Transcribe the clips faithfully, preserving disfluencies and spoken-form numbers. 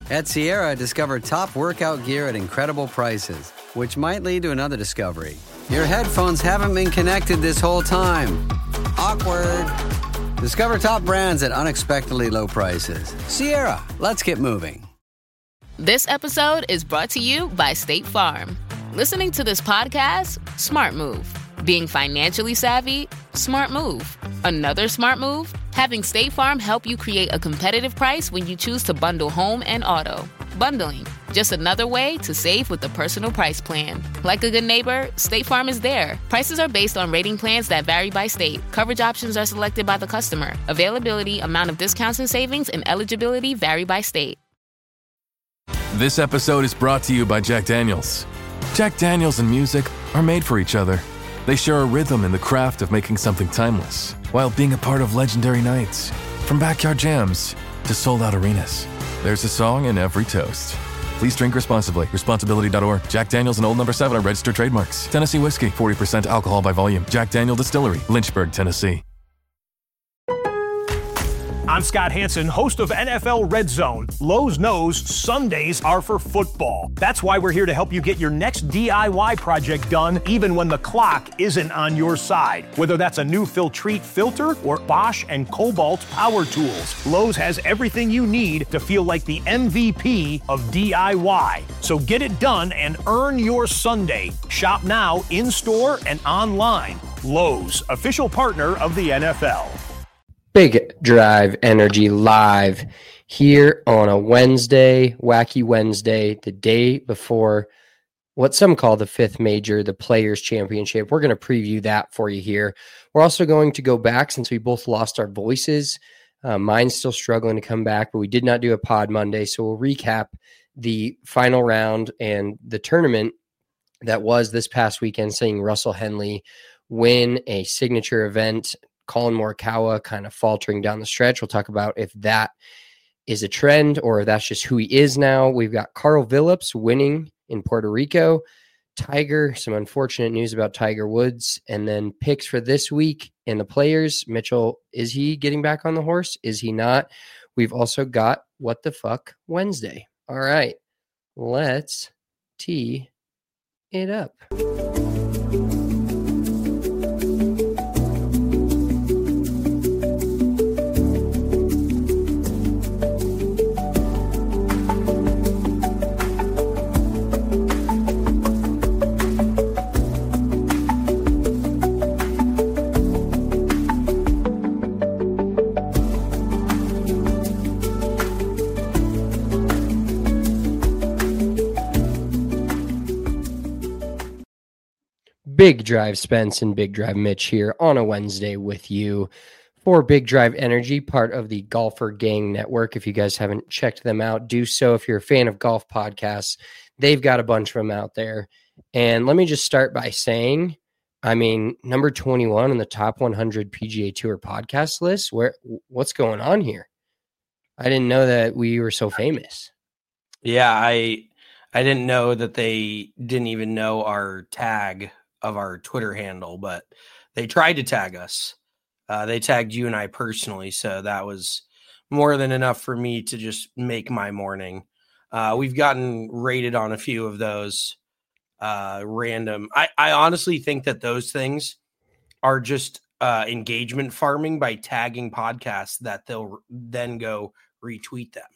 At Sierra, discover top workout gear at incredible prices, which might lead to another discovery. Your headphones haven't been connected this whole time. Awkward. Discover top brands at unexpectedly low prices. Sierra, let's get moving. This episode is brought to you by State Farm. Listening to this podcast? Smart move. Being financially savvy? Smart move. Another smart move? Having State Farm help you create a competitive price when you choose to bundle home and auto. Bundling, just another way to save with the Personal Price Plan. Like a good neighbor, State Farm is there. Prices are based on rating plans that vary by state. Coverage options are selected by the customer. Availability, amount of discounts and savings, and eligibility vary by state. This episode is brought to you by Jack Daniels. Jack Daniels and music are made for each other. They share a rhythm in the craft of making something timeless, while being a part of legendary nights. From backyard jams to sold-out arenas, there's a song in every toast. Please drink responsibly. Responsibility dot org. Jack Daniels and Old Number seven are registered trademarks. Tennessee whiskey, forty percent alcohol by volume. Jack Daniel Distillery, Lynchburg, Tennessee. I'm Scott Hanson, host of N F L Red Zone. Lowe's knows Sundays are for football. That's why we're here to help you get your next D I Y project done, even when the clock isn't on your side. Whether that's a new Filtrete filter or Bosch and Cobalt power tools, Lowe's has everything you need to feel like the M V P of D I Y. So get it done and earn your Sunday. Shop now, in-store and online. Lowe's, official partner of the N F L. Big Drive Energy live here on a Wednesday, Wacky Wednesday, the day before what some call the fifth major, the Players Championship. We're going to preview that for you here. We're also going to go back since we both lost our voices. Uh, mine's still struggling to come back, but we did not do a pod Monday, so we'll recap the final round and the tournament that was this past weekend, seeing Russell Henley win a signature event. Colin Morikawa kind of faltering down the stretch. We'll talk about if that is a trend or if that's just who he is now. We've got Carl Phillips winning in Puerto Rico. Tiger, some unfortunate news about Tiger Woods. And then picks for this week and the players. Mitchell, is he getting back on the horse? Is he not? We've also got What the Fuck Wednesday. All right, let's tee it up. Big Drive Spence and Big Drive Mitch here on a Wednesday with you for Big Drive Energy, part of the Golfer Gang Network. If you guys haven't checked them out, do so. If you're a fan of golf podcasts, they've got a bunch of them out there. And let me just start by saying, I mean, number twenty-one on the top one hundred P G A Tour podcast list. Where, what's going on here? I didn't know that we were so famous. Yeah, I I didn't know that they didn't even know our tag of our Twitter handle, but they tried to tag us. Uh, they tagged you and I personally, so that was more than enough for me to just make my morning. Uh, we've gotten rated on a few of those uh, random. I, I honestly think that those things are just uh, engagement farming by tagging podcasts that they'll then go retweet them.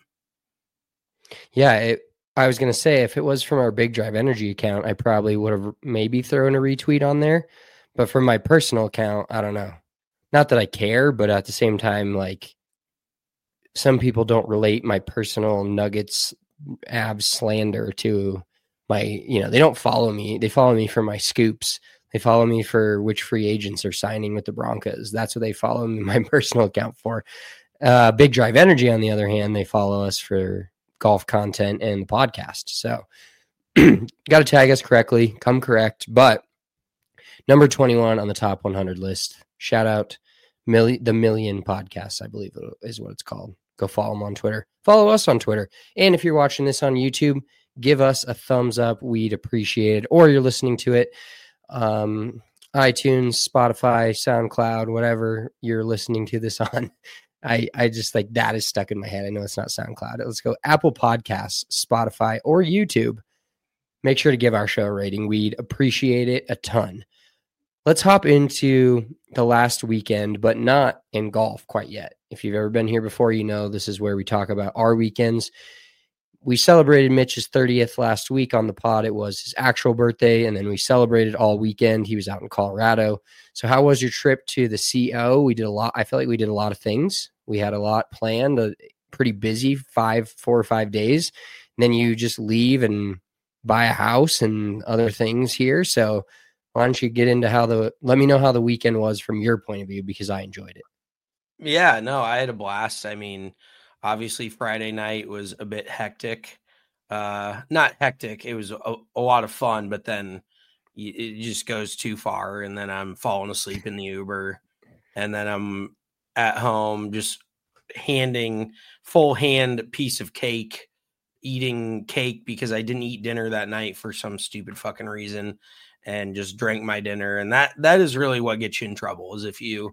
Yeah, it, I was going to say, if it was from our Big Drive Energy account, I probably would have maybe thrown a retweet on there. But from my personal account, I don't know. Not that I care, but at the same time, like, some people don't relate my personal Nuggets abs slander to my, you know, they don't follow me. They follow me for my scoops. They follow me for which free agents are signing with the Broncos. That's what they follow me, my personal account for. Uh, Big Drive Energy, on the other hand, they follow us for golf content and the podcast. So got to tag us correctly, come correct. But number twenty-one on the top one hundred list. Shout out Milli- the Million Podcasts, I believe is what it's called. Go follow them on Twitter. Follow us on Twitter. And if you're watching this on YouTube, give us a thumbs up. We'd appreciate it. Or you're listening to it, um, iTunes, Spotify, SoundCloud, whatever you're listening to this on. I, I just like that is stuck in my head. I know it's not SoundCloud. Let's go Apple Podcasts, Spotify, or YouTube. Make sure to give our show a rating. We'd appreciate it a ton. Let's hop into the last weekend, but not in golf quite yet. If you've ever been here before, you know this is where we talk about our weekends. We celebrated Mitch's thirtieth last week on the pod. It was his actual birthday, and then we celebrated all weekend. He was out in Colorado. So how was your trip to the C O? We did a lot. I felt like we did a lot of things. We had a lot planned, a pretty busy five, four or five days. And then you just leave and buy a house and other things here. So why don't you get into how the, let me know how the weekend was from your point of view, because I enjoyed it. Yeah, no, I had a blast. I mean, obviously Friday night was a bit hectic. Uh, not hectic. It was a, a lot of fun, but then it just goes too far. And then I'm falling asleep in the Uber, and then I'm at home just handing full hand piece of cake, eating cake because I didn't eat dinner that night for some stupid fucking reason, and just drank my dinner. And that, that is really what gets you in trouble, is if you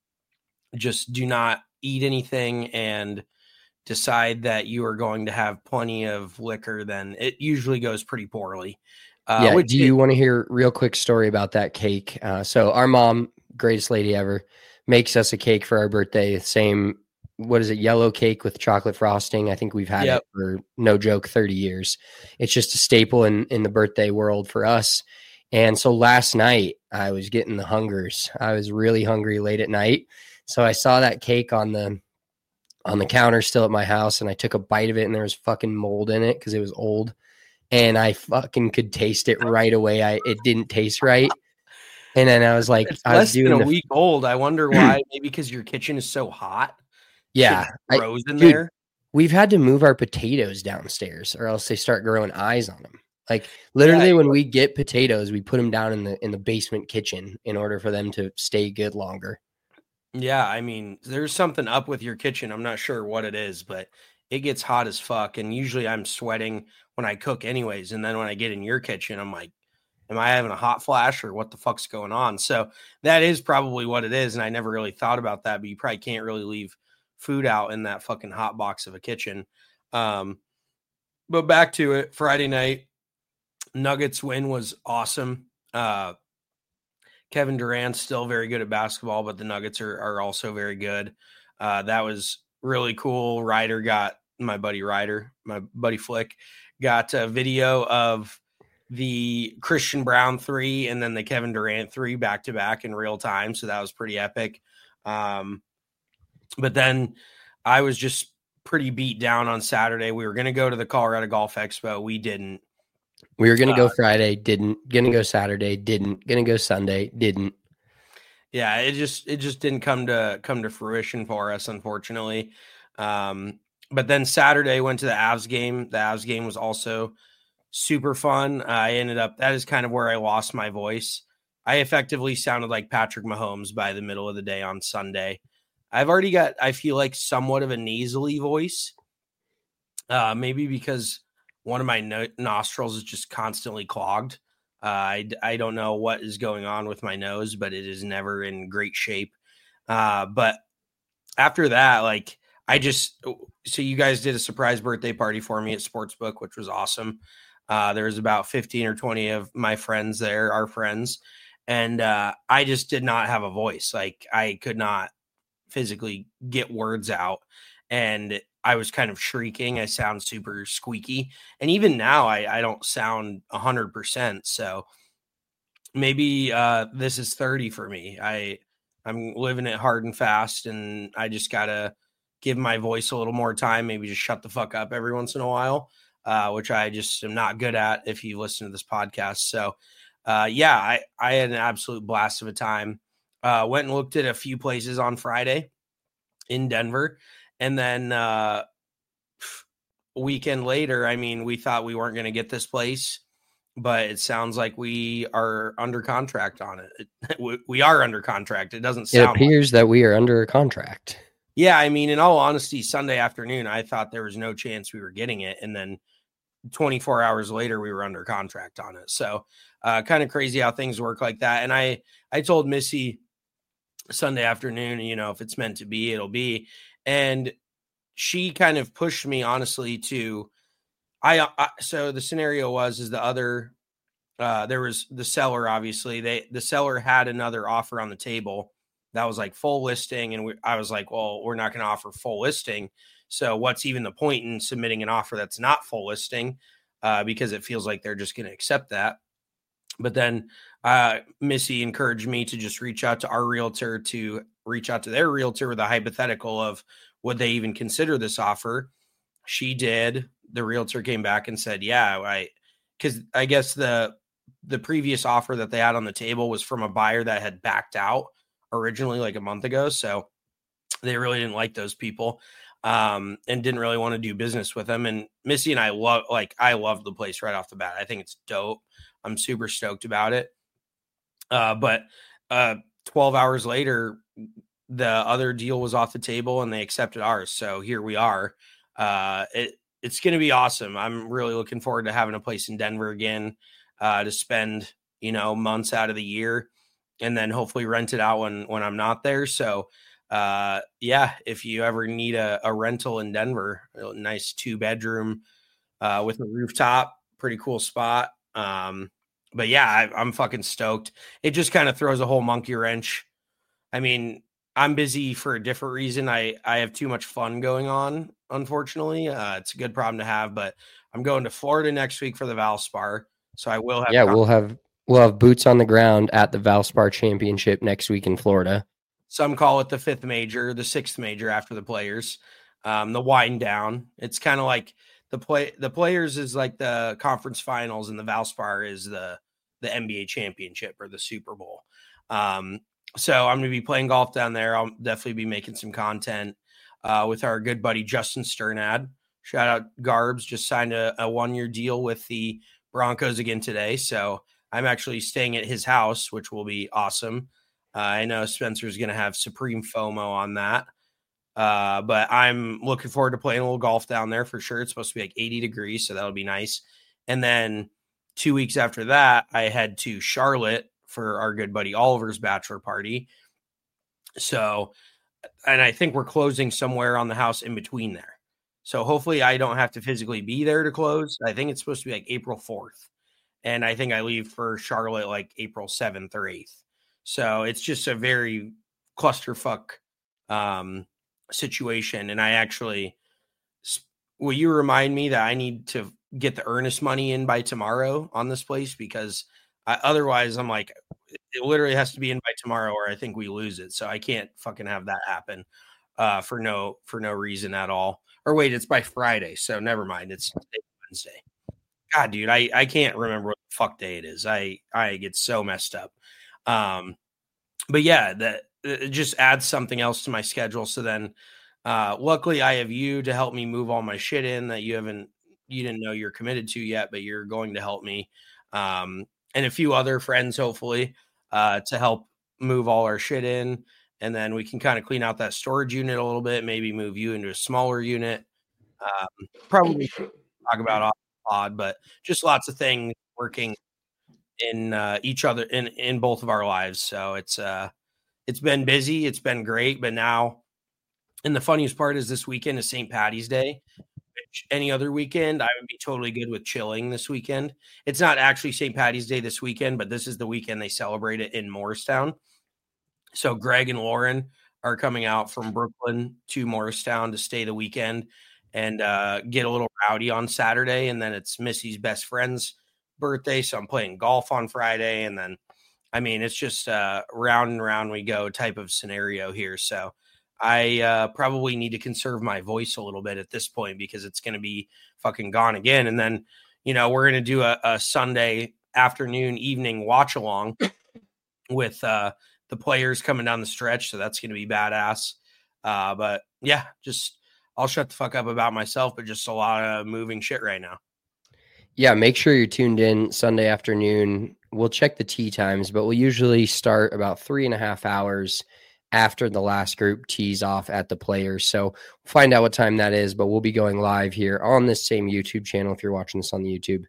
just do not eat anything and decide that you are going to have plenty of liquor, then it usually goes pretty poorly. Uh, yeah. which Do you it, want to hear a real quick story about that cake? Uh, so our mom, greatest lady ever, makes us a cake for our birthday. Same, what is it? Yellow cake with chocolate frosting. I think we've had yep. it for, no joke, thirty years. It's just a staple in, in the birthday world for us. And so last night I was getting the hungers. I was really hungry late at night. So I saw that cake on the, on the counter still at my house, and I took a bite of it, and there was fucking mold in it because it was old, and I fucking could taste it right away. I it didn't taste right, and then I was like, it's I was less doing than a the, week old. I wonder why. Maybe because your kitchen is so hot. Yeah, it grows I, in dude, there. We've had to move our potatoes downstairs, or else they start growing eyes on them. Like literally, yeah, when we get potatoes, we put them down in the in the basement kitchen in order for them to stay good longer. Yeah, I mean, there's something up with your kitchen. I'm not sure what it is, but it gets hot as fuck. And usually I'm sweating when I cook anyways. And then when I get in your kitchen, I'm like, am I having a hot flash or what the fuck's going on? So that is probably what it is. And I never really thought about that, but you probably can't really leave food out in that fucking hot box of a kitchen. Um, but back to it, Friday night, Nuggets win was awesome. Uh, Kevin Durant's still very good at basketball, but the Nuggets are, are also very good. Uh, that was really cool. Ryder got, my buddy Ryder, my buddy Flick, got a video of the Christian Brown three and then the Kevin Durant three back to back in real time. So that was pretty epic. Um, but then I was just pretty beat down on Saturday. We were going to go to the Colorado Golf Expo. We didn't. We were going to uh, go Friday, didn't. Going to go Saturday, didn't. Going to go Sunday, didn't. Yeah, it just it just didn't come to come to fruition for us, unfortunately. Um, but then Saturday went to the Avs game. The Avs game was also super fun. I ended up, that is kind of where I lost my voice. I effectively sounded like Patrick Mahomes by the middle of the day on Sunday. I've already got, I feel like, somewhat of a nasally voice. Uh, maybe because one of my no- nostrils is just constantly clogged. Uh, I, I don't know what is going on with my nose, but it is never in great shape. Uh, but after that, like, I just, so you guys did a surprise birthday party for me at Sportsbook, which was awesome. Uh, there was about fifteen or twenty of my friends there, our friends. And uh, I just did not have a voice. Like, I could not physically get words out. And I was kind of shrieking. I sound super squeaky. And even now, I, I don't sound one hundred percent. So maybe uh, this is thirty for me. I, I'm living it hard and fast, and I just got to give my voice a little more time, maybe just shut the fuck up every once in a while, uh, which I just am not good at if you listen to this podcast. So, uh, yeah, I, I had an absolute blast of a time. Uh, went and looked at a few places on Friday in Denver. And then uh, a weekend later, I mean, we thought we weren't going to get this place, but it sounds like we are under contract on it. it we are under contract. It doesn't sound It appears like that we are under a contract. Yeah, I mean, in all honesty, Sunday afternoon, I thought there was no chance we were getting it. And then twenty-four hours later, we were under contract on it. So uh, kind of crazy how things work like that. And I, I told Missy Sunday afternoon, you know, if it's meant to be, it'll be. And she kind of pushed me, honestly, to I, I so the scenario was is the other uh, there was the seller, obviously they the seller had another offer on the table that was like full listing, and we, I was like, well, we're not going to offer full listing, so what's even the point in submitting an offer that's not full listing, uh, because it feels like they're just going to accept that. But then uh, Missy encouraged me to just reach out to our realtor to reach out to their realtor with a hypothetical of would they even consider this offer. She did. The realtor came back and said, yeah, I, because I guess the the previous offer that they had on the table was from a buyer that had backed out originally like a month ago. So they really didn't like those people um, and didn't really want to do business with them. And Missy and I love, like, I love the place right off the bat. I think it's dope. I'm super stoked about it. Uh, but uh, twelve hours later, the other deal was off the table and they accepted ours. So here we are. Uh, it, it's going to be awesome. I'm really looking forward to having a place in Denver again, uh, to spend, you know, months out of the year and then hopefully rent it out when, when I'm not there. So, uh, yeah, if you ever need a, a rental in Denver, a nice two bedroom, uh, with a rooftop, pretty cool spot. Um, but yeah, I, I'm fucking stoked. It just kind of throws a whole monkey wrench. I mean, I'm busy for a different reason. I, I have too much fun going on, unfortunately. Uh, it's a good problem to have, but I'm going to Florida next week for the Valspar. So I will have. Yeah, we'll have we'll have boots on the ground at the Valspar Championship next week in Florida. Some call it the fifth major, the sixth major after the Players, um, the wind down. It's kind of like the play. The Players is like the conference finals, and the Valspar is the the N B A championship or the Super Bowl. Um, So I'm going to be playing golf down there. I'll definitely be making some content uh, with our good buddy Justin Sternad. Shout out Garbs, just signed a, a one-year deal with the Broncos again today. So I'm actually staying at his house, which will be awesome. Uh, I know Spencer's going to have supreme FOMO on that. Uh, but I'm looking forward to playing a little golf down there for sure. It's supposed to be like eighty degrees, so that'll be nice. And then two weeks after that, I head to Charlotte for our good buddy Oliver's bachelor party. So, and I think we're closing somewhere on the house in between there. So hopefully I don't have to physically be there to close. I think it's supposed to be like April fourth. And I think I leave for Charlotte like April seventh or eighth. So it's just a very clusterfuck um, situation. And I actually, will you remind me that I need to get the earnest money in by tomorrow on this place? Because I, otherwise I'm like, it literally has to be in by tomorrow or I think we lose it. So I can't fucking have that happen uh, for no, for no reason at all. Or wait, it's by Friday. So never mind. It's Wednesday. God, dude, I, I can't remember what the fuck day it is. I, I get so messed up. Um, but yeah, that it just adds something else to my schedule. So then uh, luckily I have you to help me move all my shit in that you haven't, you didn't know you're committed to yet, but you're going to help me. Um, and a few other friends, hopefully, uh, to help move all our shit in. And then we can kind of clean out that storage unit a little bit, maybe move you into a smaller unit. Um, probably talk about off the pod, but just lots of things working in uh, each other in, in both of our lives. So it's uh, it's been busy. It's been great. But now, and the funniest part is this weekend is Saint Patty's Day. Which any other weekend, I would be totally good with chilling this weekend. It's not actually Saint Patty's Day this weekend, but this is the weekend they celebrate it in Morristown. So Greg and Lauren are coming out from Brooklyn to Morristown to stay the weekend and uh, get a little rowdy on Saturday. And then it's Missy's best friend's birthday. So I'm playing golf on Friday. And then, I mean, it's just uh, round and round we go type of scenario here. So I uh, probably need to conserve my voice a little bit at this point because it's going to be fucking gone again. And then, you know, we're going to do a, a Sunday afternoon, evening watch along with uh, the players coming down the stretch. So that's going to be badass. Uh, but yeah, just I'll shut the fuck up about myself, but just a lot of moving shit right now. Yeah, make sure you're tuned in Sunday afternoon. We'll check the tee times, but we'll usually start about three and a half hours after the last group tees off at the Players. So we'll find out what time that is, but we'll be going live here on this same YouTube channel if you're watching this on the YouTube,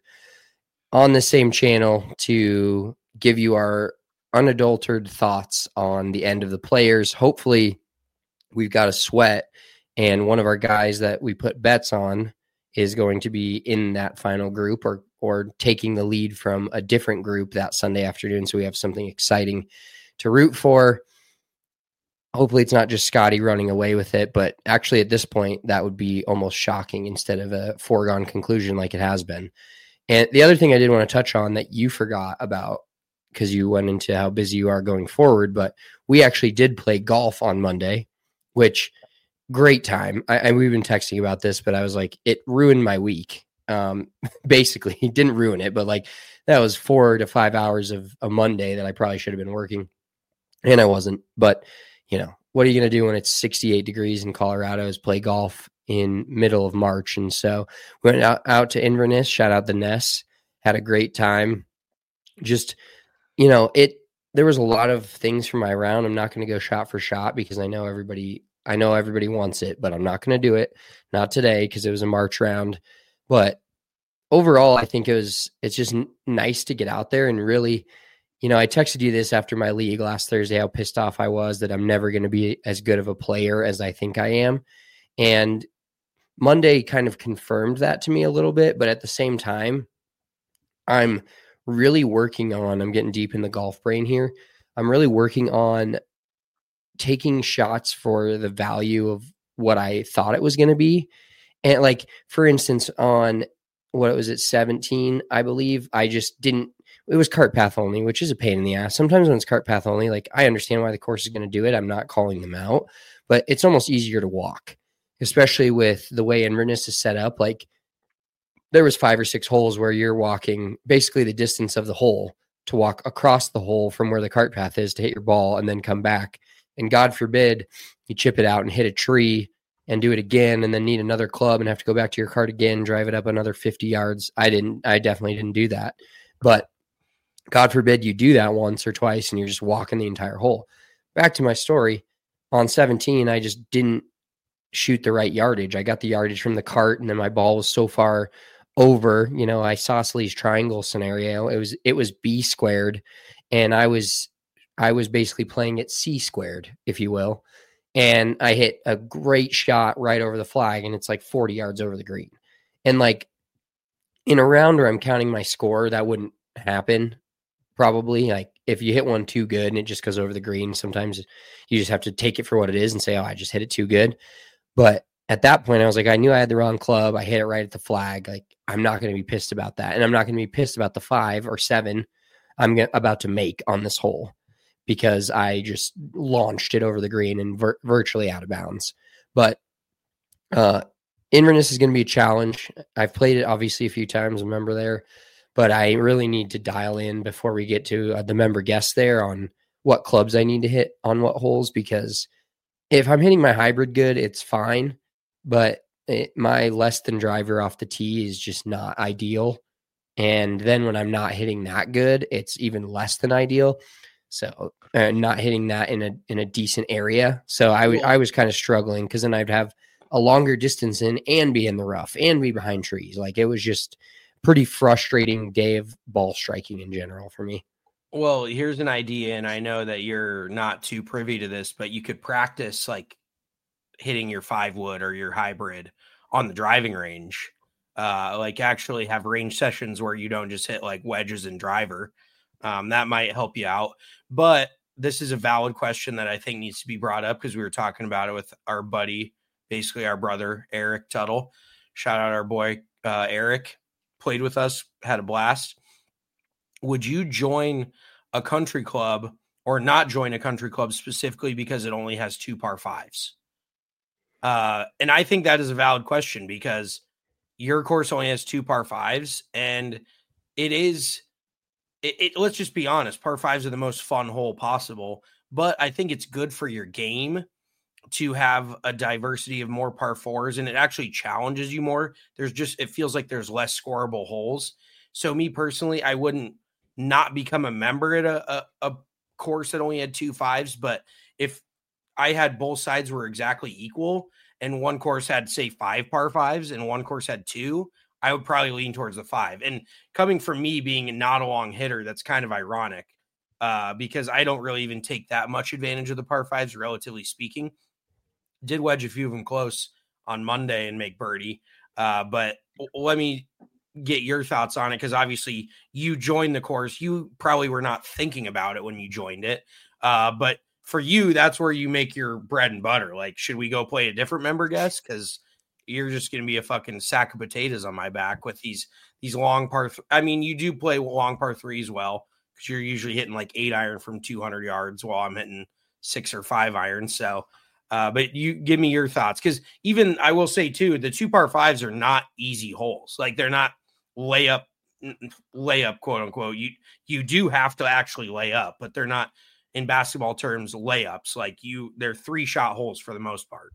on the same channel to give you our unadulterated thoughts on the end of the Players. Hopefully we've got a sweat And one of our guys that we put bets on is going to be in that final group or or taking the lead from a different group that Sunday afternoon. So we have something exciting to root for. Hopefully it's not just Scotty running away with it, but actually at this point, that would be almost shocking instead of a foregone conclusion like it has been. And the other thing I did want to touch on that you forgot about, because you went into how busy you are going forward, but we actually did play golf on Monday, which great time. I, I we've been texting about this, but I was like, it ruined my week. Um, basically, it didn't ruin it, but like that was four to five hours of a Monday that I probably should have been working, and I wasn't. But you know, what are you going to do when it's sixty-eight degrees in Colorado? Is play golf in middle of March, and so we went out, out to Inverness. Shout out the Ness. Had a great time. Just you know, it. There was a lot of things from my round. I'm not going to go shot for shot because I know everybody. I know everybody wants it, but I'm not going to do it. Not today because it was a March round. But overall, I think it was, it's just n- nice to get out there and really, you know, I texted you this after my league last Thursday, how pissed off I was that I'm never going to be as good of a player as I think I am. And Monday kind of confirmed that to me a little bit, but at the same time, I'm really working on, I'm getting deep in the golf brain here. I'm really working on taking shots for the value of what I thought it was going to be. And like, for instance, on what was it, seventeen, I believe, I just didn't, it was cart path only, which is a pain in the ass. Sometimes when it's cart path only, like I understand why the course is going to do it. I'm not calling them out, but it's almost easier to walk, especially with the way Inverness is set up. Like there was five or six holes where you're walking basically the distance of the hole to walk across the hole from where the cart path is to hit your ball and then come back. And God forbid you chip it out and hit a tree and do it again and then need another club and have to go back to your cart again, drive it up another fifty yards. I didn't, I definitely didn't do that. But God forbid you do that once or twice and you're just walking the entire hole. Back to my story. On seventeen, I just didn't shoot the right yardage. I got the yardage from the cart and then my ball was so far over, you know, isosceles triangle scenario. It was, it was B squared and I was, I was basically playing it C squared, if you will. And I hit a great shot right over the flag and it's like forty yards over the green. And like in a round where I'm counting my score, that wouldn't happen. Probably like if you hit one too good and it just goes over the green, sometimes you just have to take it for what it is and say, oh, I just hit it too good. But at that point I was like, I knew I had the wrong club. I hit it right at the flag. Like I'm not going to be pissed about that. And I'm not going to be pissed about the five or seven I'm g- about to make on this hole, because I just launched it over the green and vir- virtually out of bounds. But uh, Inverness is going to be a challenge. I've played it obviously a few times, a member there, but I really need to dial in before we get to uh, the member guest there on what clubs I need to hit on what holes, because if I'm hitting my hybrid good, it's fine. But it, my less than driver off the tee is just not ideal. And then when I'm not hitting that good, it's even less than ideal. So uh, not hitting that in a in a decent area. So I, w- I was kind of struggling because then I'd have a longer distance in and be in the rough and be behind trees. Like it was just pretty frustrating day of ball striking in general for me. Well, here's an idea, and I know that you're not too privy to this, but you could practice like hitting your five wood or your hybrid on the driving range. Uh, like actually have range sessions where you don't just hit like wedges and driver. Um, that might help you out. But this is a valid question that I think needs to be brought up because we were talking about it with our buddy, basically our brother, Eric Tuttle. Shout out our boy, uh, Eric. Played with us, had a blast. Would you join a country club or not join a country club specifically because it only has two par fives? Uh, and I think that is a valid question because your course only has two par fives, and it is it, it let's just be honest, par fives are the most fun hole possible, but I think it's good for your game to have a diversity of more par fours, and it actually challenges you more. There's just, it feels like there's less scoreable holes. So me personally, I wouldn't not become a member at a, a, a course that only had two fives, but if I had both sides were exactly equal and one course had say five par fives and one course had two, I would probably lean towards the five. And coming from me being not a long hitter, that's kind of ironic uh, because I don't really even take that much advantage of the par fives, relatively speaking. Did wedge a few of them close on Monday and make birdie. Uh, but let me get your thoughts on it, because obviously you joined the course. You probably were not thinking about it when you joined it. Uh, but for you, that's where you make your bread and butter. Like, should we go play a different member guest? Because you're just going to be a fucking sack of potatoes on my back with these these long par. Th- I mean, you do play long par threes well, because you're usually hitting like eight iron from two hundred yards while I'm hitting six or five iron. So, uh, but you give me your thoughts, because even I will say too, the two par fives are not easy holes. Like, they're not layup, layup, quote unquote. You you do have to actually lay up, but they're not, in basketball terms, layups. Like, you, they're three shot holes for the most part.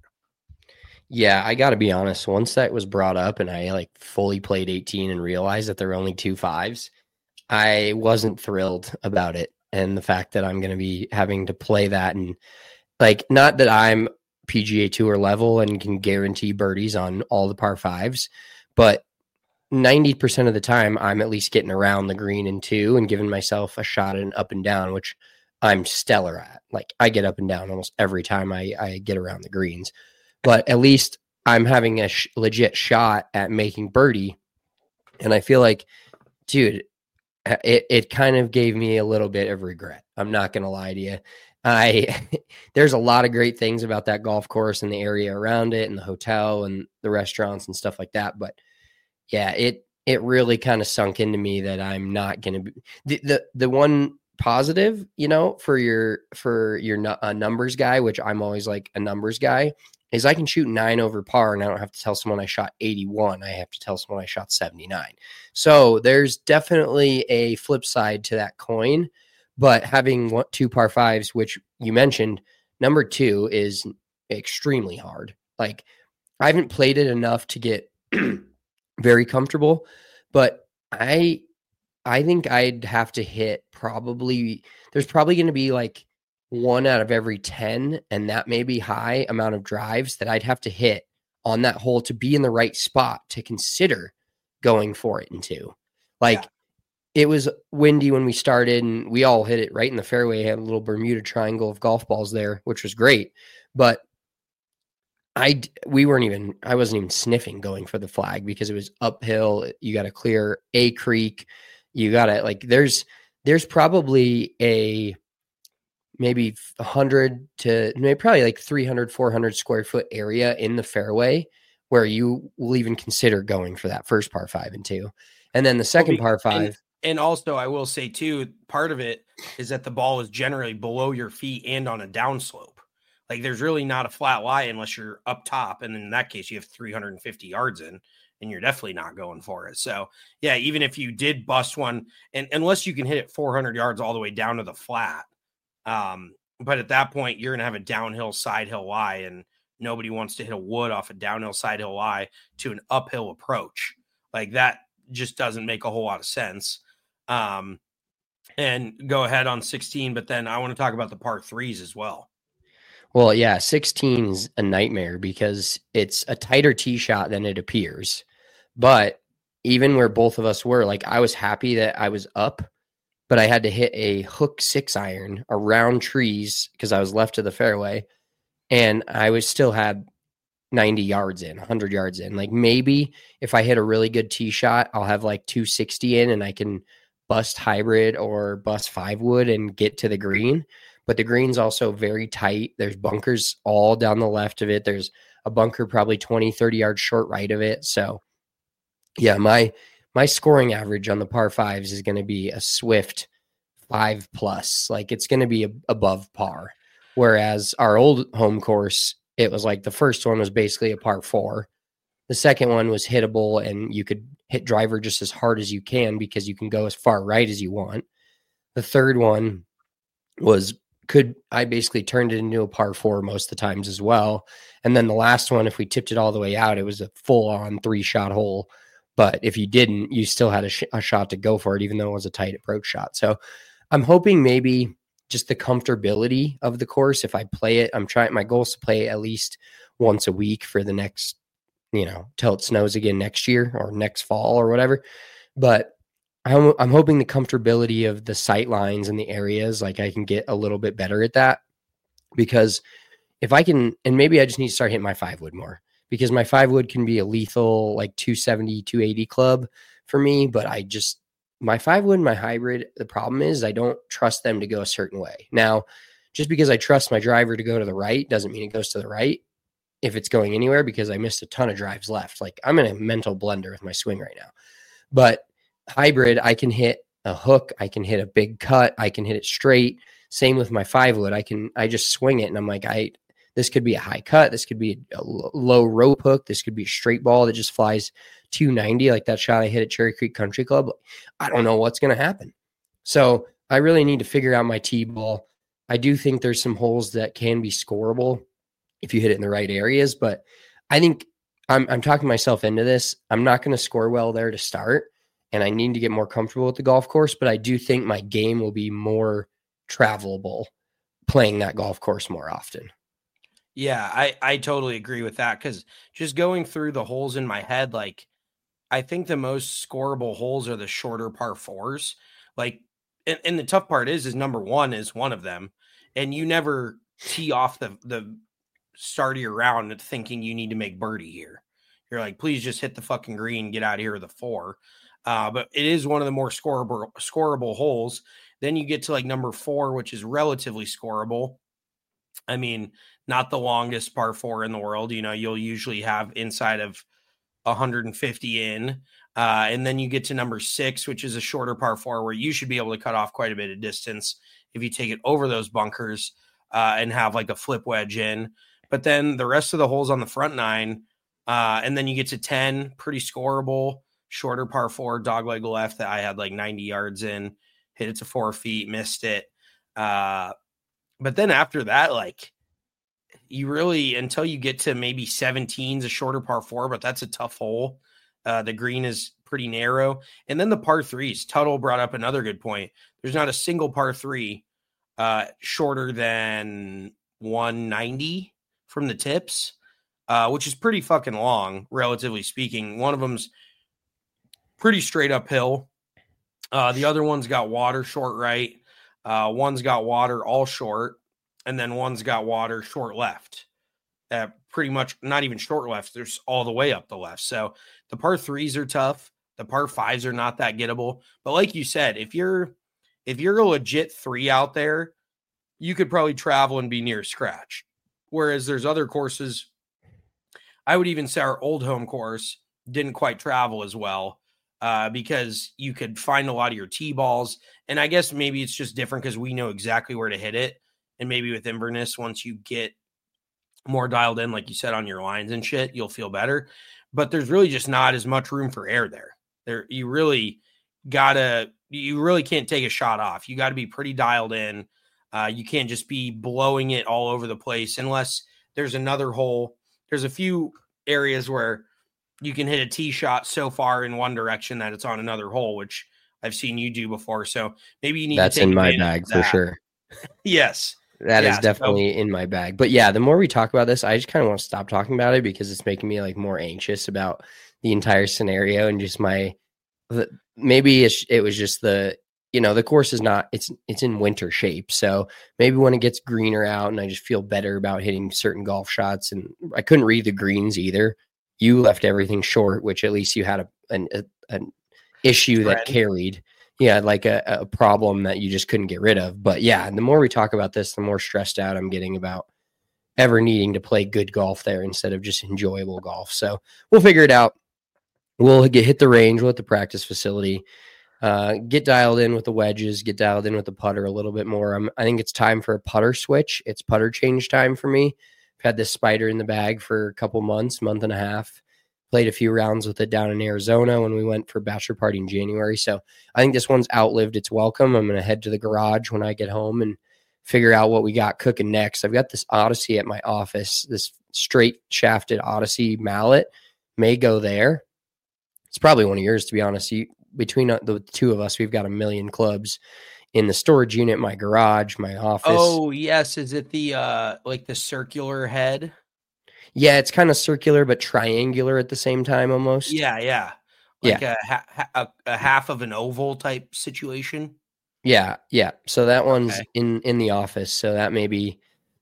Yeah, I got to be honest. Once that was brought up and I like fully played eighteen and realized that there were only two fives, I wasn't thrilled about it. And the fact that I'm going to be having to play that, and like, not that I'm P G A Tour level and can guarantee birdies on all the par fives, but ninety percent of the time I'm at least getting around the green in two and giving myself a shot at an up and down, which I'm stellar at. Like, I get up and down almost every time I, I get around the greens. But at least I'm having a sh- legit shot at making birdie. And I feel like, dude, it, it kind of gave me a little bit of regret. I'm not going to lie to you. I there's a lot of great things about that golf course and the area around it and the hotel and the restaurants and stuff like that. But yeah, it it really kind of sunk into me that I'm not going to be the, the the one positive, you know, for your for your uh, numbers guy, which I'm always like a numbers guy, is I can shoot nine over par and I don't have to tell someone I shot eighty-one. I have to tell someone I shot seventy-nine. So there's definitely a flip side to that coin. But having one, two par fives, which you mentioned, number two is extremely hard. Like, I haven't played it enough to get very comfortable, but I I think I'd have to hit probably, there's probably going to be like one out of every ten, and that may be high amount of drives that I'd have to hit on that hole to be in the right spot to consider going for it in two. Like, yeah. It was windy when we started, and we all hit it right in the fairway. Had a little Bermuda triangle of golf balls there, which was great. But I, we weren't even, I wasn't even sniffing going for the flag because it was uphill. You got to clear a creek. You got to, like, there's, there's probably a, maybe one hundred to maybe probably like three hundred, four hundred square foot area in the fairway where you will even consider going for that first par five and two. And then the second par five. And, and also I will say too, part of it is that the ball is generally below your feet and on a downslope. Like, there's really not a flat lie unless you're up top. And in that case, you have three hundred fifty yards in, and you're definitely not going for it. So yeah, even if you did bust one, and unless you can hit it four hundred yards all the way down to the flat, um, but at that point you're going to have a downhill side hill lie, and nobody wants to hit a wood off a downhill side hill lie to an uphill approach. Like, that just doesn't make a whole lot of sense. Um, and go ahead on sixteen, but then I want to talk about the par threes as well. Well, yeah, sixteen is a nightmare because it's a tighter tee shot than it appears. But even where both of us were, like, I was happy that I was up, but I had to hit a hook six iron around trees because I was left of the fairway, and I was still had ninety yards in, one hundred yards in. Like, maybe if I hit a really good tee shot, I'll have like two sixty in and I can bust hybrid or bust five wood and get to the green. But the green's also very tight. There's bunkers all down the left of it. There's a bunker probably twenty, thirty yards short right of it. So yeah, my my scoring average on the par fives is going to be a swift five plus. Like, it's going to be a, above par. Whereas our old home course, it was like the first one was basically a par four. The second one was hittable, and you could hit driver just as hard as you can because you can go as far right as you want. The third one was could I basically turned it into a par four most of the times as well. And then the last one, if we tipped it all the way out, it was a full on three shot hole. But if you didn't, you still had a, sh- a shot to go for it, even though it was a tight approach shot. So I'm hoping maybe just the comfortability of the course. If I play it, I'm trying, my goal is to play at least once a week for the next, you know, till it snows again next year or next fall or whatever. But I'm, I'm hoping the comfortability of the sight lines and the areas, like, I can get a little bit better at that, because if I can, and maybe I just need to start hitting my five wood more, because my five wood can be a lethal like two seventy, two eighty club for me. But I just, my five wood and my hybrid, the problem is I don't trust them to go a certain way. Now, just because I trust my driver to go to the right doesn't mean it goes to the right if it's going anywhere, because I missed a ton of drives left. Like I'm in a mental blender with my swing right now. But hybrid, I can hit a hook, I can hit a big cut, I can hit it straight. Same with my five wood. I can, I just swing it and I'm like, I, this could be a high cut. This could be a low rope hook. This could be a straight ball that just flies two ninety, like that shot I hit at Cherry Creek Country Club. I don't know what's going to happen. So I really need to figure out my T-ball. I do think there's some holes that can be scoreable if you hit it in the right areas, but I think I'm, I'm talking myself into this. I'm not going to score well there to start, and I need to get more comfortable with the golf course, but I do think my game will be more travelable playing that golf course more often. Yeah, I, I totally agree with that, because just going through the holes in my head, like I think the most scoreable holes are the shorter par fours. Like, and, and the tough part is, is number one is one of them. And you never tee off the, the start of your round thinking you need to make birdie here. You're like, please just hit the fucking green, get out of here with a four. Uh, but it is one of the more scoreable, scoreable holes. Then you get to like number four, which is relatively scoreable. I mean, not the longest par four in the world. You know, you'll usually have inside of one hundred fifty in. Uh, and then you get to number six, which is a shorter par four where you should be able to cut off quite a bit of distance if you take it over those bunkers uh, and have like a flip wedge in. But then the rest of the holes on the front nine, uh, and then you get to ten, pretty scoreable, shorter par four, dogleg left that I had like ninety yards in, hit it to four feet, missed it. Uh, but then after that, like you really, until you get to maybe seventeen's a shorter par four, but that's a tough hole. Uh, the green is pretty narrow. And then the par threes, Tuttle brought up another good point. There's not a single par three uh, shorter than one ninety from the tips, uh, which is pretty fucking long, relatively speaking. One of them's pretty straight uphill. Uh, the other one's got water short right. Uh, one's got water all short. And then one's got water short left. Uh, pretty much not even short left. There's all the way up the left. So the par threes are tough. The par fives are not that gettable. But like you said, if you're if you're a legit three out there, you could probably travel and be near scratch. Whereas there's other courses, I would even say our old home course didn't quite travel as well uh, because you could find a lot of your tee balls. And I guess maybe it's just different because we know exactly where to hit it. And maybe with Inverness, once you get more dialed in, like you said, on your lines and shit, you'll feel better. But there's really just not as much room for error there. There, you really gotta, you really can't take a shot off. You got to be pretty dialed in. Uh, you can't just be blowing it all over the place unless there's another hole. There's a few areas where you can hit a tee shot so far in one direction that it's on another hole, which I've seen you do before. So maybe you need That's to take in my bag for sure. Yes. That yeah, is definitely so, in my bag. But yeah, the more we talk about this, I just kind of want to stop talking about it because it's making me like more anxious about the entire scenario and just my, maybe it's, it was just the, you know, the course is not, it's, it's in winter shape. So maybe when it gets greener out and I just feel better about hitting certain golf shots, and I couldn't read the greens either. You left everything short, which at least you had a, an, a, an issue that carried. Yeah, like a, a problem that you just couldn't get rid of. But yeah, and the more we talk about this, the more stressed out I'm getting about ever needing to play good golf there instead of just enjoyable golf. So we'll figure it out. We'll get hit the range, we'll hit the practice facility, uh, get dialed in with the wedges, get dialed in with the putter a little bit more. I'm, I think it's time for a putter switch. It's putter change time for me. I've had this spider in the bag for a couple months, month and a half. Played a few rounds with it down in Arizona when we went for bachelor party in January. So I think this one's outlived its welcome. I'm going to head to the garage when I get home and figure out what we got cooking next. I've got this Odyssey at my office, this straight shafted Odyssey mallet may go there. It's probably one of yours, to be honest. You, between the two of us, we've got a million clubs in the storage unit, my garage, my office. Oh, yes. Is it the, uh, like the circular head? Yeah, it's kind of circular, but triangular at the same time almost. Yeah, yeah. Like yeah. A, ha- a, a half of an oval type situation. Yeah, yeah. So that one's okay. in, in the office. So that may be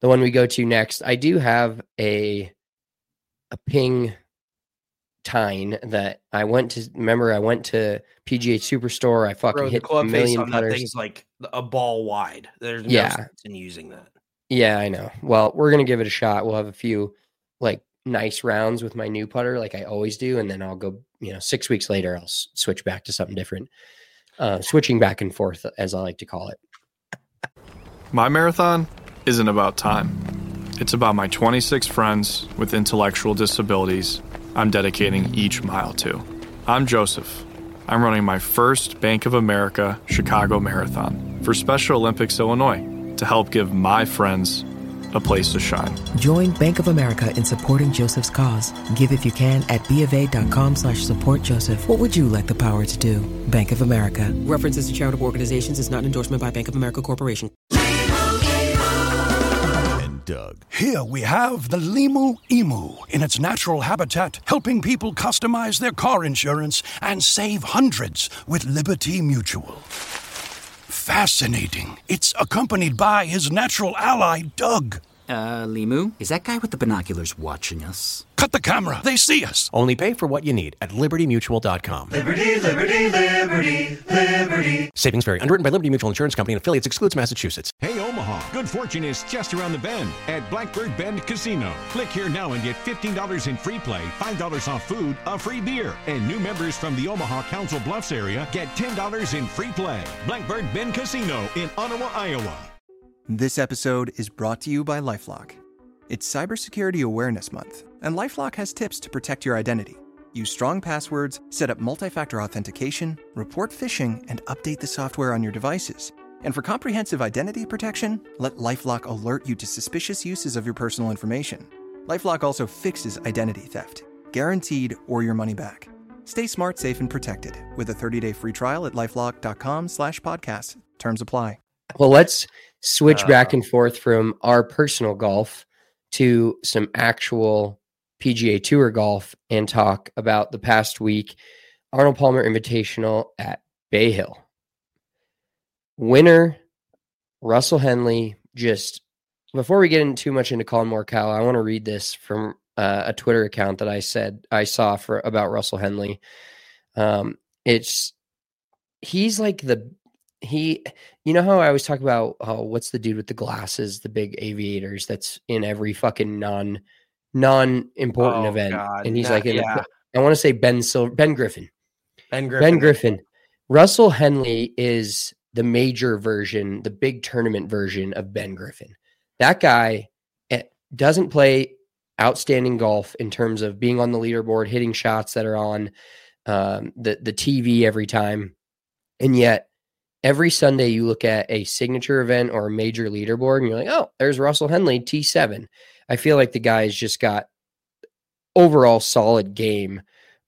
the one we go to next. I do have a a ping tine that I went to. Remember, I went to P G A Superstore. I fucking Bro, hit the club a face million on that putters. thing's like a ball wide. There's no Yeah. sense in using that. Yeah, I know. Well, we're gonna give it a shot. We'll have a few like nice rounds with my new putter, like I always do, and then I'll go. You know, six weeks later, I'll s- switch back to something different. Uh, switching back and forth, as I like to call it. My marathon isn't about time. It's about my twenty-six friends with intellectual disabilities I'm dedicating each mile to. I'm Joseph. I'm running my first Bank of America Chicago Marathon for Special Olympics Illinois to help give my friends a place to shine. Join Bank of America in supporting Joseph's cause. Give if you can at BofA.com slash support Joseph. What would you like the power to do? Bank of America. References to charitable organizations is not an endorsement by Bank of America Corporation. And Doug. Here we have the Limu Emu in its natural habitat, helping people customize their car insurance and save hundreds with Liberty Mutual. Fascinating. It's accompanied by his natural ally, Doug. Uh, Limu? Is that guy with the binoculars watching us? Cut the camera. They see us. Only pay for what you need at liberty mutual dot com. Liberty, liberty, liberty, liberty. Savings vary. Underwritten by Liberty Mutual Insurance Company and affiliates. Excludes Massachusetts. Hey, Omaha. Good fortune is just around the bend at Blackbird Bend Casino. Click here now and get fifteen dollars in free play, five dollars off food, a free beer. And new members from the Omaha Council Bluffs area get ten dollars in free play. Blackbird Bend Casino in Ottawa, Iowa. This episode is brought to you by LifeLock. It's Cybersecurity Awareness Month, and LifeLock has tips to protect your identity. Use strong passwords, set up multi-factor authentication, report phishing, and update the software on your devices. And for comprehensive identity protection, let LifeLock alert you to suspicious uses of your personal information. LifeLock also fixes identity theft, guaranteed or your money back. Stay smart, safe, and protected with a thirty-day free trial at lifelock.com slash podcast. Terms apply. Well, let's switch Uh, back and forth from our personal golf to some actual P G A Tour golf and talk about the past week Arnold Palmer Invitational at Bay Hill. Winner, Russell Henley. Just before we get in too much into Colin Morikawa, I want to read this from uh, a Twitter account that I said I saw for about Russell Henley. Um, it's he's like the he, you know how I always talk about oh, what's the dude with the glasses, the big aviators that's in every fucking non non important Oh, event, God. and he's Nah, like, in yeah. I want to say Ben Silver, Ben Griffin. Ben Griffin. Ben Griffin. Russell Henley is the major version, the big tournament version of Ben Griffin. That guy eh, doesn't play outstanding golf in terms of being on the leaderboard, hitting shots that are on um, the, the T V every time. And yet every Sunday you look at a signature event or a major leaderboard and you're like, oh, there's Russell Henley, T seven. I feel like the guy's just got overall solid game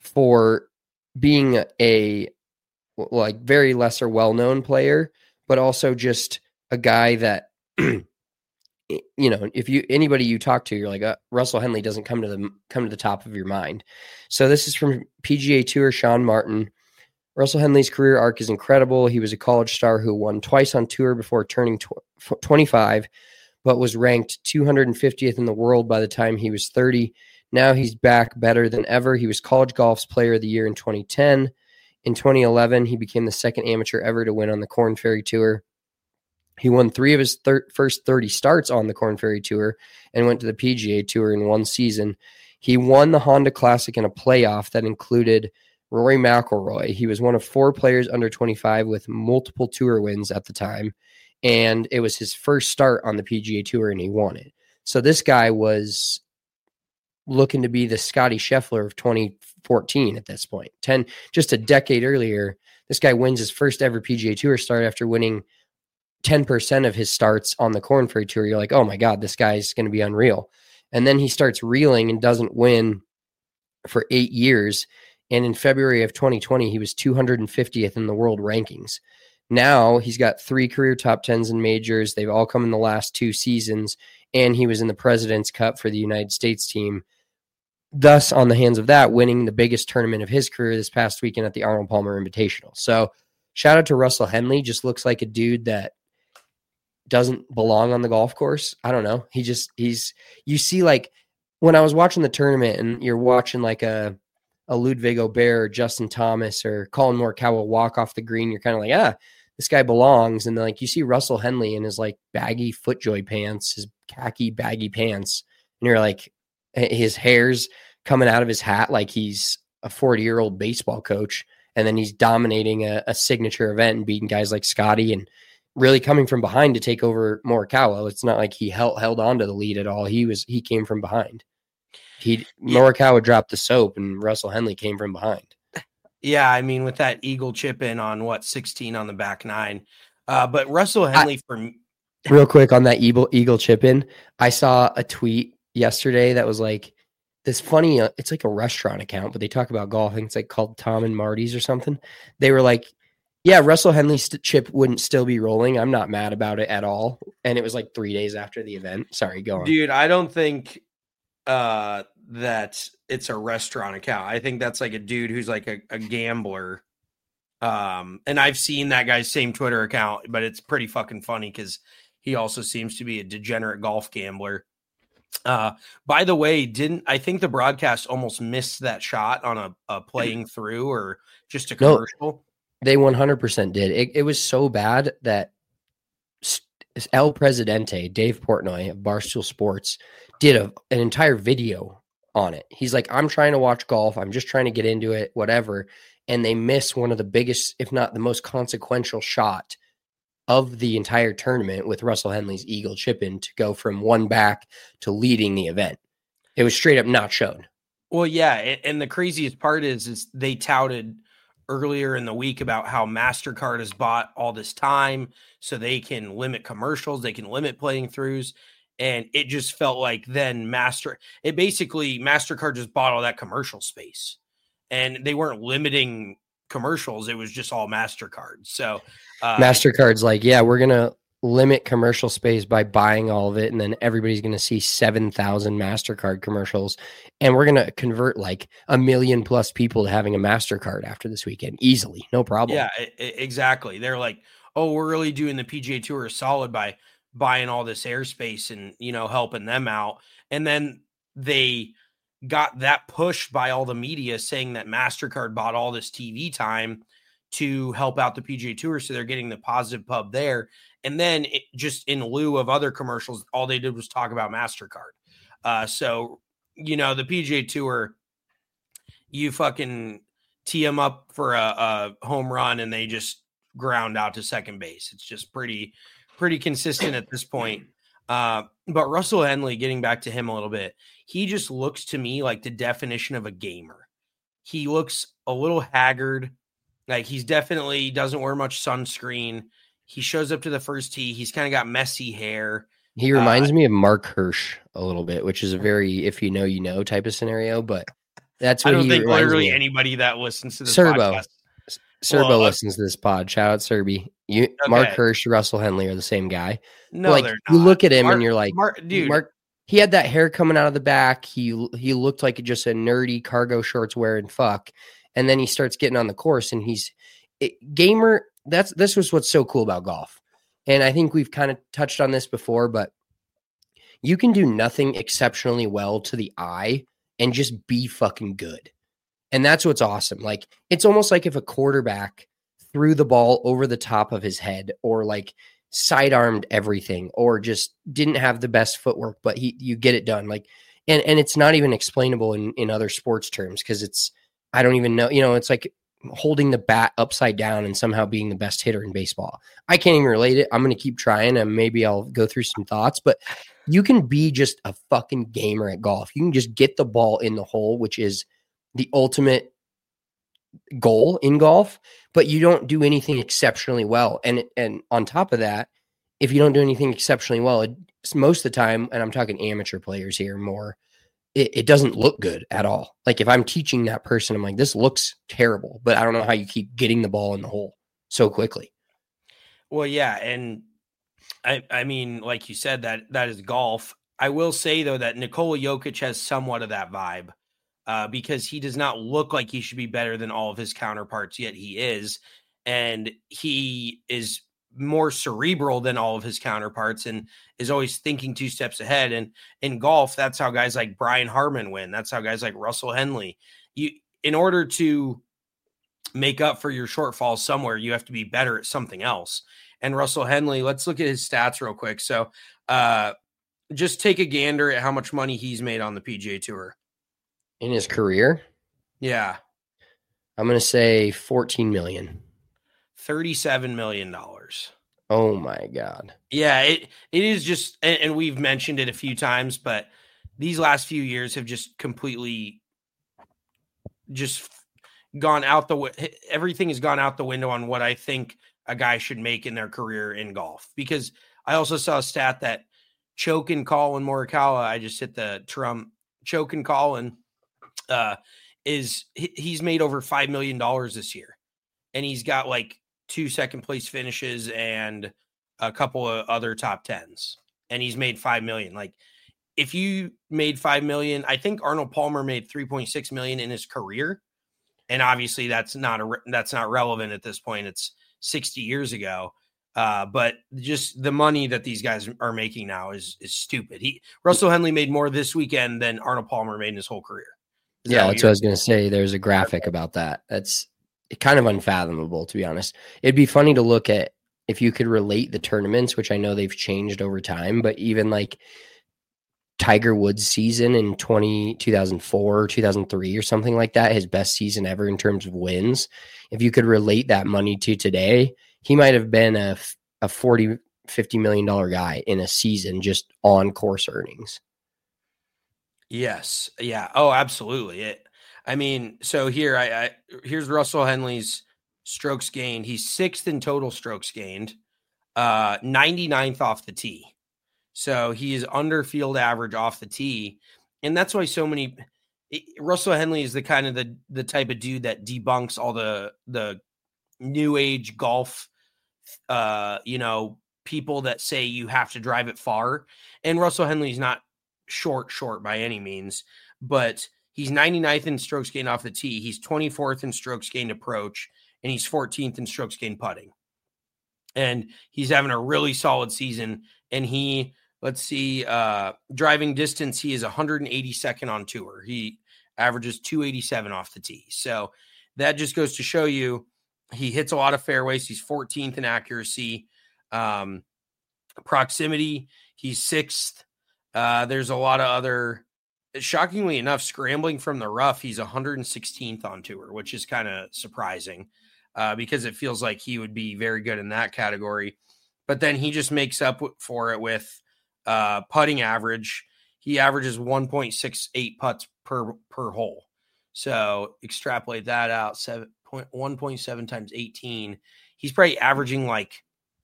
for being a like very lesser well-known player, but also just a guy that, you know, if you, anybody you talk to, you're like, uh, Russell Henley doesn't come to the, come to the top of your mind. So this is from P G A Tour, Sean Martin. Russell Henley's career arc is incredible. He was a college star who won twice on tour before turning tw- twenty-five, but was ranked two hundred fiftieth in the world by the time he was thirty. Now he's back better than ever. He was College Golf's Player of the Year in twenty ten. In twenty eleven, he became the second amateur ever to win on the Korn Ferry Tour. He won three of his thir- first thirty starts on the Korn Ferry Tour and went to the P G A Tour in one season. He won the Honda Classic in a playoff that included Rory McIlroy. He was one of four players under twenty-five with multiple tour wins at the time, and it was his first start on the P G A Tour, and he won it. So this guy was looking to be the Scotty Scheffler of twenty fourteen at this point. ten, just a decade earlier, this guy wins his first ever P G A Tour start after winning ten percent of his starts on the Korn Ferry Tour. You're like, oh my God, this guy's going to be unreal. And then he starts reeling and doesn't win for eight years. And in February of twenty twenty, he was two hundred fiftieth in the world rankings. Now he's got three career top tens in majors. They've all come in the last two seasons. And he was in the President's Cup for the United States team. Thus, on the hands of that, winning the biggest tournament of his career this past weekend at the Arnold Palmer Invitational. So shout out to Russell Henley. Just looks like a dude that doesn't belong on the golf course. I don't know. He just, he's, you see, like when I was watching the tournament and you're watching like a, a Ludwig Aubert or Justin Thomas or Colin Morikawa walk off the green, you're kind of like, ah, this guy belongs. And then like you see Russell Henley in his like baggy FootJoy pants, his khaki baggy pants, and you're like, his hair's coming out of his hat like he's a forty-year-old baseball coach, and then he's dominating a, a signature event and beating guys like Scotty and really coming from behind to take over Morikawa. It's not like he held held on to the lead at all. He was he came from behind. He Morikawa dropped the soap, and Russell Henley came from behind. Yeah, I mean, with that eagle chip in on what sixteen on the back nine, uh, but Russell Henley I, for real quick on that eagle eagle chip in, I saw a tweet yesterday that was like this funny. Uh, it's like a restaurant account, but they talk about golf. I think it's like called Tom and Marty's or something. They were like, "Yeah, Russell Henley's st- chip wouldn't still be rolling. I'm not mad about it at all." And it was like three days after the event. Sorry, go on, dude. I don't think uh, that it's a restaurant account. I think that's like a dude who's like a, a gambler. Um, and I've seen that guy's same Twitter account, but it's pretty fucking funny because he also seems to be a degenerate golf gambler. Uh, by the way, didn't I think the broadcast almost missed that shot on a, a playing through or just a commercial? No, they one hundred percent did. It, it was so bad that El Presidente, Dave Portnoy of Barstool Sports, did a, an entire video on it. He's like, I'm trying to watch golf. I'm just trying to get into it, whatever. And they miss one of the biggest, if not the most consequential shot of the entire tournament with Russell Henley's eagle chip in to go from one back to leading the event. It was straight up not shown. Well, yeah. And the craziest part is, is they touted earlier in the week about how MasterCard has bought all this time so they can limit commercials. They can limit playing throughs. And it just felt like then Master, it basically MasterCard just bought all that commercial space, and they weren't limiting commercials. It was just all MasterCard. So uh, MasterCard's like, yeah, we're going to limit commercial space by buying all of it. And then everybody's going to see seven thousand MasterCard commercials. And we're going to convert like a million plus people to having a MasterCard after this weekend. Easily. No problem. Yeah, exactly. They're like, oh, we're really doing the P G A Tour solid by buying all this airspace and, you know, helping them out. And then they got that pushed by all the media saying that MasterCard bought all this T V time to help out the P G A Tour. So they're getting the positive pub there. And then it, just in lieu of other commercials, all they did was talk about MasterCard. Uh, so, you know, the P G A Tour, you fucking tee them up for a, a home run and they just ground out to second base. It's just pretty, pretty consistent at this point. Uh, but Russell Henley, getting back to him a little bit, he just looks to me like the definition of a gamer. He looks a little haggard. Like he's definitely doesn't wear much sunscreen. He shows up to the first tee. He's kind of got messy hair. He reminds uh, me of Mark Hirsch a little bit, which is a very, if you know, you know type of scenario, but that's what I don't he think literally me anybody that listens to this Serbo. podcast. Serbo well, listens to this pod. Shout out Serby. You, okay. Mark Hirsch, Russell Henley are the same guy. No, like, they're you not. look at him Mark, and you're like, Mark, dude, Mark, he had that hair coming out of the back. He he looked like just a nerdy cargo shorts wearing fuck. And then he starts getting on the course and he's it, gamer. That's this was what's so cool about golf. And I think we've kind of touched on this before, but you can do nothing exceptionally well to the eye and just be fucking good. And that's what's awesome. Like, it's almost like if a quarterback threw the ball over the top of his head or like sidearmed everything or just didn't have the best footwork, but he, you get it done. Like, and, and it's not even explainable in, in other sports terms. Cause it's, I don't even know, you know, it's like holding the bat upside down and somehow being the best hitter in baseball. I can't even relate it. I'm going to keep trying and maybe I'll go through some thoughts, but you can be just a fucking gamer at golf. You can just get the ball in the hole, which is the ultimate goal in golf, but you don't do anything exceptionally well. And, and on top of that, if you don't do anything exceptionally well, it, most of the time, and I'm talking amateur players here more, it, it doesn't look good at all. Like if I'm teaching that person, I'm like, this looks terrible, but I don't know how you keep getting the ball in the hole so quickly. Well, yeah. And I, I mean, like you said, that that is golf. I will say though, that Nikola Jokic has somewhat of that vibe. Uh, because he does not look like he should be better than all of his counterparts, yet he is. And he is more cerebral than all of his counterparts and is always thinking two steps ahead. And in golf, that's how guys like Brian Harman win. That's how guys like Russell Henley, you, in order to make up for your shortfalls somewhere, you have to be better at something else. And Russell Henley, let's look at his stats real quick. So uh, just take a gander at how much money he's made on the P G A Tour. In his career? Yeah. I'm going to say fourteen million. thirty-seven million dollars. Oh my God. Yeah, it it is just, and, and we've mentioned it a few times, but these last few years have just completely just gone out the, everything has gone out the window on what I think a guy should make in their career in golf. Because I also saw a stat that Choke and Colin Morikawa, I just hit the Trump, Choke and Colin, uh, is he's made over five million dollars this year. And he's got like two second place finishes and a couple of other top tens. And he's made five million. Like if you made five million, I think Arnold Palmer made three point six million in his career. And obviously that's not a, that's not relevant at this point. It's sixty years ago. Uh, but just the money that these guys are making now is, is stupid. He Russell Henley made more this weekend than Arnold Palmer made in his whole career. Is yeah, that that's what I was going to say. There's a graphic about that. That's kind of unfathomable, to be honest. It'd be funny to look at if you could relate the tournaments, which I know they've changed over time, but even like Tiger Woods' season in twenty, two thousand four, two thousand three or something like that, his best season ever in terms of wins. If you could relate that money to today, he might have been a, a forty, fifty million dollars guy in a season just on course earnings. Yes. Yeah. Oh, absolutely. It, I mean, so here, I, I here's Russell Henley's strokes gained. He's sixth in total strokes gained, uh, ninety-ninth off the tee. So he is under field average off the tee. And that's why so many it, Russell Henley is the kind of the, the type of dude that debunks all the, the new age golf, uh, you know, people that say you have to drive it far. And Russell Henley's not short, short by any means, but he's ninety-ninth in strokes gained off the tee. He's twenty-fourth in strokes gained approach, and he's fourteenth in strokes gained putting. And he's having a really solid season. And he, let's see, uh, driving distance, he is one hundred eighty-second on tour. He averages two eighty-seven off the tee. So that just goes to show you he hits a lot of fairways. He's fourteenth in accuracy. Um, proximity, he's sixth. Uh, there's a lot of other, shockingly enough, scrambling from the rough, he's one hundred sixteenth on tour, which is kind of surprising uh, because it feels like he would be very good in that category. But then he just makes up for it with uh, putting average. He averages one point six eight putts per, per hole. So extrapolate that out, one point seven times eighteen. He's probably averaging like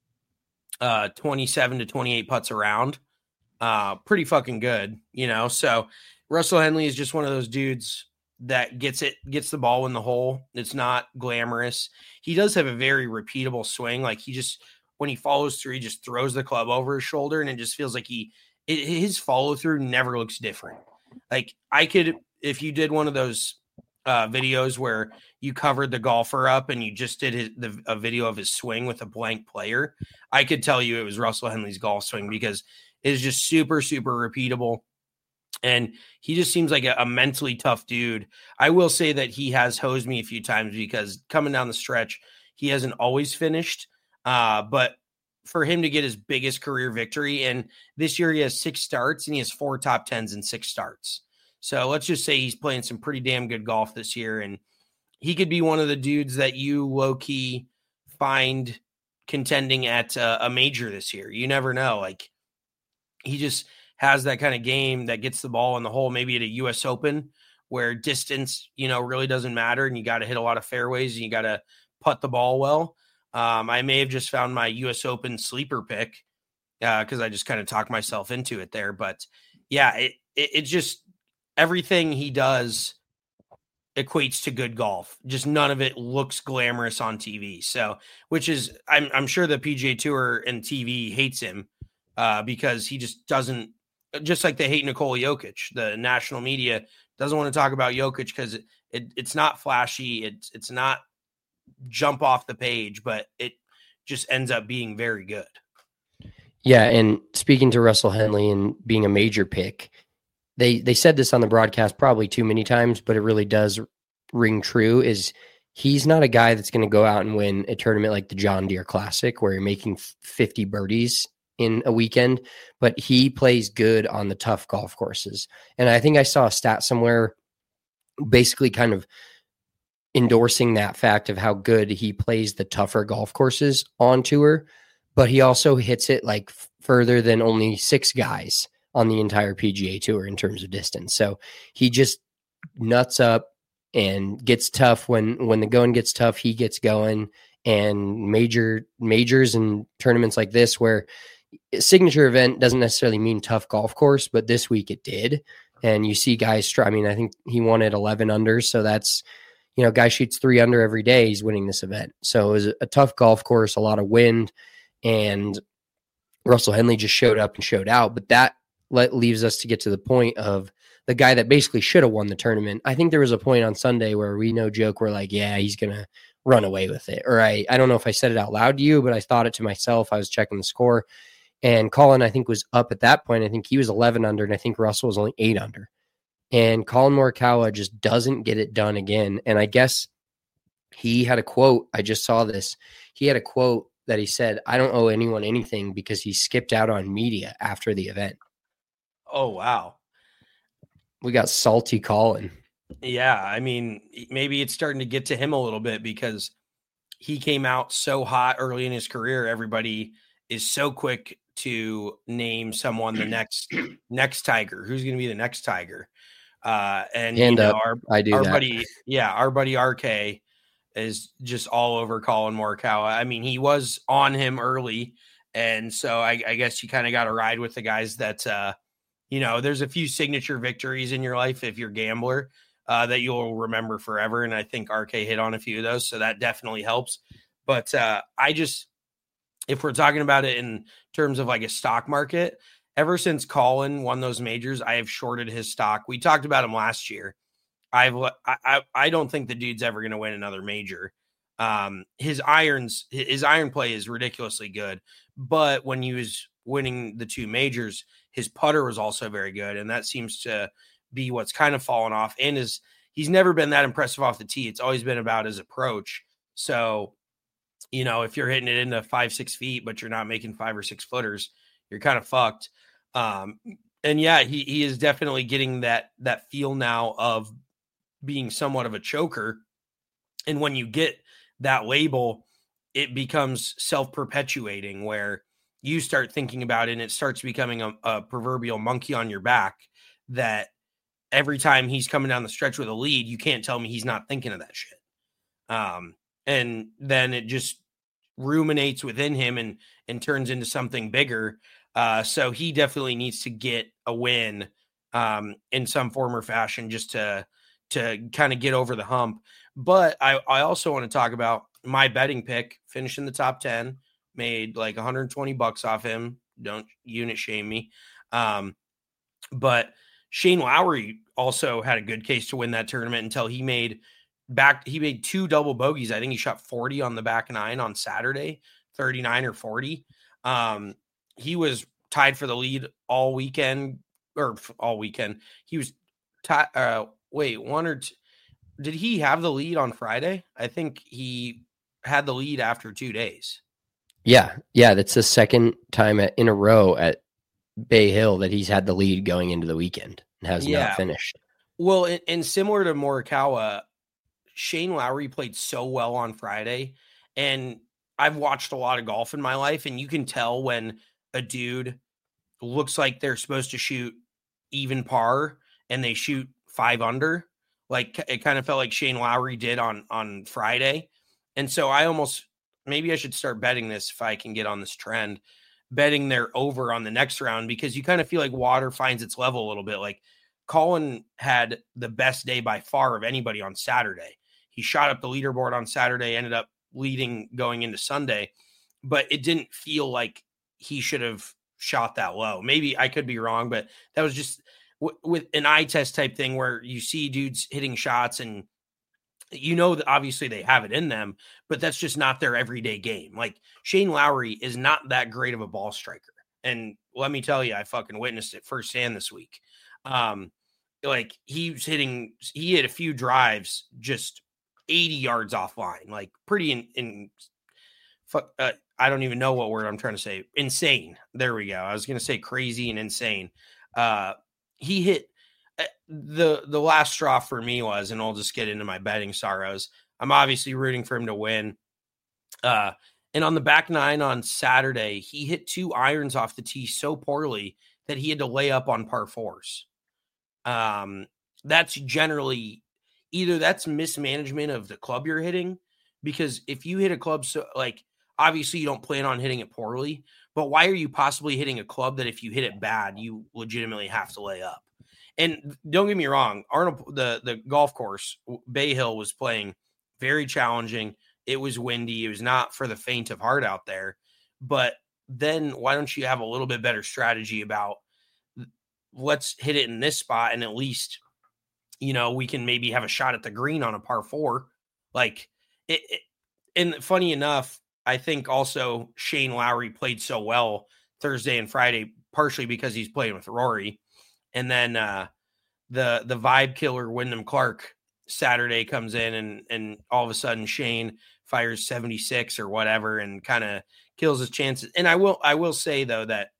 uh, twenty-seven to twenty-eight putts around. Uh, pretty fucking good, you know? So Russell Henley is just one of those dudes that gets it, gets the ball in the hole. It's not glamorous. He does have a very repeatable swing. Like he just, when he follows through, he just throws the club over his shoulder and it just feels like he, it, his follow through never looks different. Like I could, if you did one of those uh, videos where you covered the golfer up and you just did his, the, a video of his swing with a blank player, I could tell you it was Russell Henley's golf swing because it is just super, super repeatable. And he just seems like a, a mentally tough dude. I will say that he has hosed me a few times because coming down the stretch, he hasn't always finished. Uh, but for him to get his biggest career victory, and this year he has six starts and he has four top tens and six starts. So let's just say he's playing some pretty damn good golf this year. And he could be one of the dudes that you low key find contending at a, a major this year. You never know. Like, he just has that kind of game that gets the ball in the hole, maybe at a U S Open where distance, you know, really doesn't matter. And you got to hit a lot of fairways and you got to putt the ball well. Um, I may have just found my U S Open sleeper pick uh, cause I just kind of talked myself into it there, but yeah, it, it, it just, everything he does equates to good golf. Just none of it looks glamorous on T V. So, which is, I'm, I'm sure the P G A Tour and T V hates him. Uh, because he just doesn't, just like they hate Nikola Jokic. The national media doesn't want to talk about Jokic because it, it, it's not flashy. It's it's not jump off the page, but it just ends up being very good. Yeah, and speaking to Russell Henley and being a major pick, they they said this on the broadcast probably too many times, but it really does ring true, is he's not a guy that's going to go out and win a tournament like the John Deere Classic where you're making fifty birdies in a weekend, but he plays good on the tough golf courses. And I think I saw a stat somewhere basically kind of endorsing that fact of how good he plays the tougher golf courses on tour, but he also hits it like f- further than only six guys on the entire P G A Tour in terms of distance. So he just nuts up and gets tough when, when the going gets tough, he gets going. And major majors and tournaments like this, where a signature event doesn't necessarily mean tough golf course, but this week it did. And you see guys try, I mean, I think he won at eleven under. So that's, you know, guy shoots three under every day, he's winning this event. So it was a tough golf course, a lot of wind, and Russell Henley just showed up and showed out. But that let, leaves us to get to the point of the guy that basically should have won the tournament. I think there was a point on Sunday where we no joke, we're like, yeah, he's going to run away with it. Or I, I don't know if I said it out loud to you, but I thought it to myself. I was checking the score, and Colin, I think, was up at that point. I think he was eleven under, and I think Russell was only eight under. And Colin Morikawa just doesn't get it done again. And I guess he had a quote. I just saw this. He had a quote that he said, I don't owe anyone anything, because he skipped out on media after the event. Oh, wow. We got salty Colin. Yeah. I mean, maybe it's starting to get to him a little bit, because he came out so hot early in his career. Everybody is so quick to name someone the next, next Tiger. Who's going to be the next Tiger? Uh, and Hand you know, up. our, I do our that. buddy, yeah, our buddy R K is just all over Colin Morikawa. I mean, he was on him early, and so I, I guess you kind of got to ride with the guys that, uh, you know, there's a few signature victories in your life if you're a gambler uh, that you'll remember forever, and I think R K hit on a few of those, so that definitely helps. But uh, I just, if we're talking about it in terms of like a stock market, ever since Colin won those majors, I have shorted his stock. We talked about him last year. I've I I don't think the dude's ever going to win another major. Um, his irons, his iron play is ridiculously good, but when he was winning the two majors, his putter was also very good, and that seems to be what's kind of fallen off. And is he's never been that impressive off the tee. It's always been about his approach. So, you know, if you're hitting it into five six feet, but you're not making five or six footers, you're kind of fucked. Um, and yeah, he he is definitely getting that that feel now of being somewhat of a choker. And when you get that label, it becomes self-perpetuating, where you start thinking about it and it starts becoming a, a proverbial monkey on your back, that every time he's coming down the stretch with a lead, you can't tell me he's not thinking of that shit. Um, and then it just ruminates within him and, and turns into something bigger. Uh, so he definitely needs to get a win um, in some form or fashion, just to, to kind of get over the hump. But I, I also want to talk about my betting pick, finishing the top ten, made like one hundred twenty bucks off him. Don't unit shame me. Um, but Shane Lowry also had a good case to win that tournament until he made back. He made two double bogeys. I think he shot forty on the back nine on Saturday, thirty-nine or forty. Um, he was tied for the lead all weekend or all weekend. He was tied. Uh, wait, one or two. Did he have the lead on Friday? I think he had the lead after two days. Yeah. Yeah. That's the second time at, in a row at Bay Hill that he's had the lead going into the weekend and has yeah. not finished. Well, and, and similar to Morikawa, Shane Lowry played so well on Friday, and I've watched a lot of golf in my life, and you can tell when a dude looks like they're supposed to shoot even par and they shoot five under. Like it kind of felt like Shane Lowry did on, on Friday. And so I almost, maybe I should start betting this if I can get on this trend, betting their over on the next round, because you kind of feel like water finds its level a little bit. Like Colin had the best day by far of anybody on Saturday. He shot up the leaderboard on Saturday, ended up leading going into Sunday, but it didn't feel like he should have shot that low. Maybe I could be wrong, but that was just w- with an eye test type thing where you see dudes hitting shots and you know that obviously they have it in them, but that's just not their everyday game. Like Shane Lowry is not that great of a ball striker. And let me tell you, I fucking witnessed it firsthand this week. Um, like he's hitting, he hit a few drives just eighty yards offline, like pretty in, in uh, I don't even know what word I'm trying to say. Insane. There we go. I was going to say crazy and insane. Uh, he hit uh, the, the last straw for me was, and I'll just get into my betting sorrows. I'm obviously rooting for him to win. Uh, and on the back nine on Saturday, he hit two irons off the tee so poorly that he had to lay up on par fours. Um, that's generally either that's mismanagement of the club you're hitting, because if you hit a club, so like, obviously you don't plan on hitting it poorly, but why are you possibly hitting a club that if you hit it bad, you legitimately have to lay up? And don't get me wrong, Arnold, the, the golf course, Bay Hill, was playing very challenging. It was windy. It was not for the faint of heart out there. But then why don't you have a little bit better strategy about let's hit it in this spot and at least, you know, we can maybe have a shot at the green on a par four. Like it, it and funny enough, I think also Shane Lowry played so well Thursday and Friday, partially because he's playing with Rory. And then uh, the the vibe killer Wyndham Clark Saturday comes in and and all of a sudden Shane fires seventy-six or whatever and kind of kills his chances. And I will I will say though that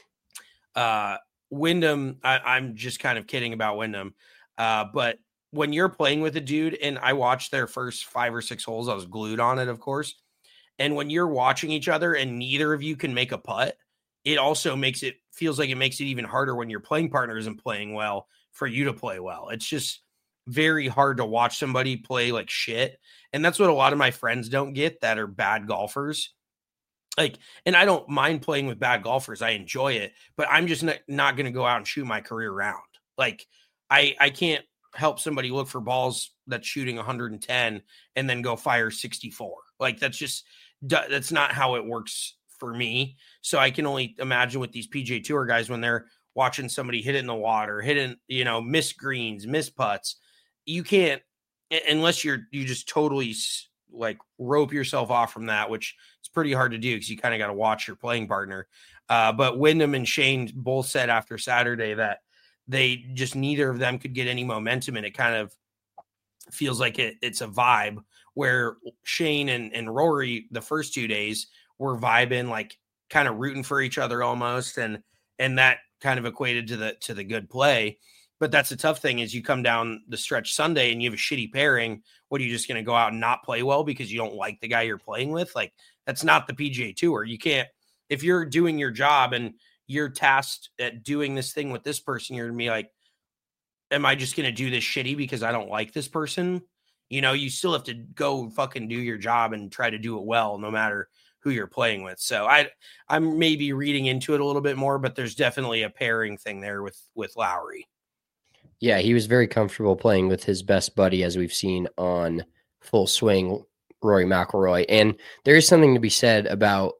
uh, Wyndham, I, I'm just kind of kidding about Wyndham, uh, but when you're playing with a dude, and I watched their first five or six holes, I was glued on it, of course. And when you're watching each other and neither of you can make a putt, it also makes it feels like it makes it even harder when your playing partner isn't playing well for you to play well. It's just very hard to watch somebody play like shit. And that's what a lot of my friends don't get that are bad golfers. Like, and I don't mind playing with bad golfers. I enjoy it, but I'm just not, not going to go out and shoot my career round. Like I, I can't help somebody look for balls that's shooting one hundred ten and then go fire sixty-four. Like that's just, that's not how it works for me. So I can only imagine with these P G A Tour guys, when they're watching somebody hit it in the water, hitting, you know, miss greens, miss putts, you can't, unless you're, you just totally like rope yourself off from that, which it's pretty hard to do because you kind of got to watch your playing partner. Uh, but Wyndham and Shane both said after Saturday that they just, neither of them could get any momentum. And it kind of feels like it, it's a vibe where Shane and, and Rory, the first two days, were vibing, like kind of rooting for each other almost. And, and that kind of equated to the, to the good play. But that's the tough thing is you come down the stretch Sunday and you have a shitty pairing. What are you just going to go out and not play well because you don't like the guy you're playing with? Like that's not the P G A Tour. You can't, if you're doing your job and you're tasked at doing this thing with this person, you're going to be like, am I just going to do this shitty because I don't like this person? You know, you still have to go fucking do your job and try to do it well, no matter who you're playing with. So I, I'm maybe reading into it a little bit more, but there's definitely a pairing thing there with, with Lowry. Yeah, he was very comfortable playing with his best buddy, as we've seen on Full Swing, Rory McIlroy. And there is something to be said about,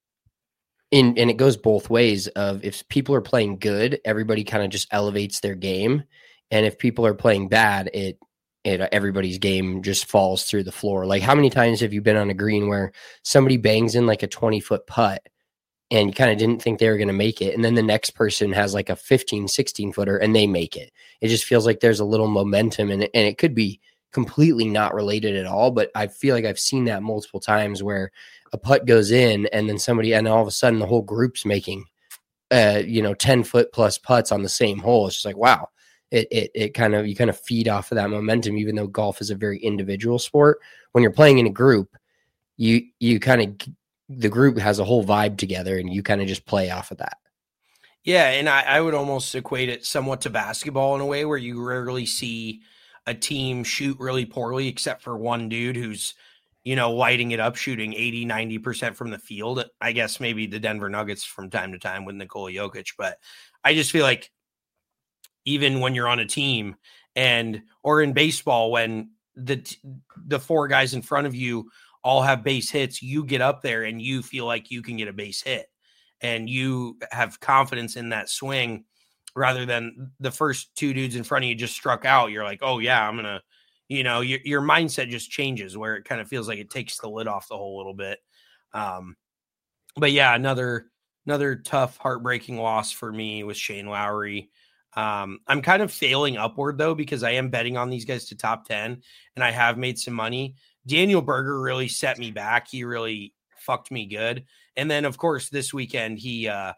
in, and it goes both ways, of if people are playing good, everybody kind of just elevates their game. And if people are playing bad, it, it everybody's game just falls through the floor. Like how many times have you been on a green where somebody bangs in like a twenty foot putt and you kind of didn't think they were going to make it, and then the next person has like a fifteen, sixteen footer and they make it? It just feels like there's a little momentum in it, and it could be completely not related at all, but I feel like I've seen that multiple times where a putt goes in and then somebody, and all of a sudden the whole group's making uh you know ten foot plus putts on the same hole. It's just like, wow, it it it kind of, you kind of feed off of that momentum. Even though golf is a very individual sport, when you're playing in a group, you you kind of, the group has a whole vibe together and you kind of just play off of that. Yeah. And I, I would almost equate it somewhat to basketball in a way where you rarely see a team shoot really poorly, except for one dude who's, you know, lighting it up, shooting eighty, ninety percent from the field. I guess maybe the Denver Nuggets from time to time with Nikola Jokic, but I just feel like even when you're on a team and, or in baseball, when the, the four guys in front of you all have base hits, you get up there and you feel like you can get a base hit and you have confidence in that swing rather than the first two dudes in front of you just struck out. You're like, oh yeah, I'm going to, you know, your, your mindset just changes where it kind of feels like it takes the lid off the whole little bit. Um, but yeah, another, another tough, heartbreaking loss for me with Shane Lowry. Um, I'm kind of failing upward though, because I am betting on these guys to top ten and I have made some money. Daniel Berger really set me back. He really fucked me good. And then of course this weekend, he, uh,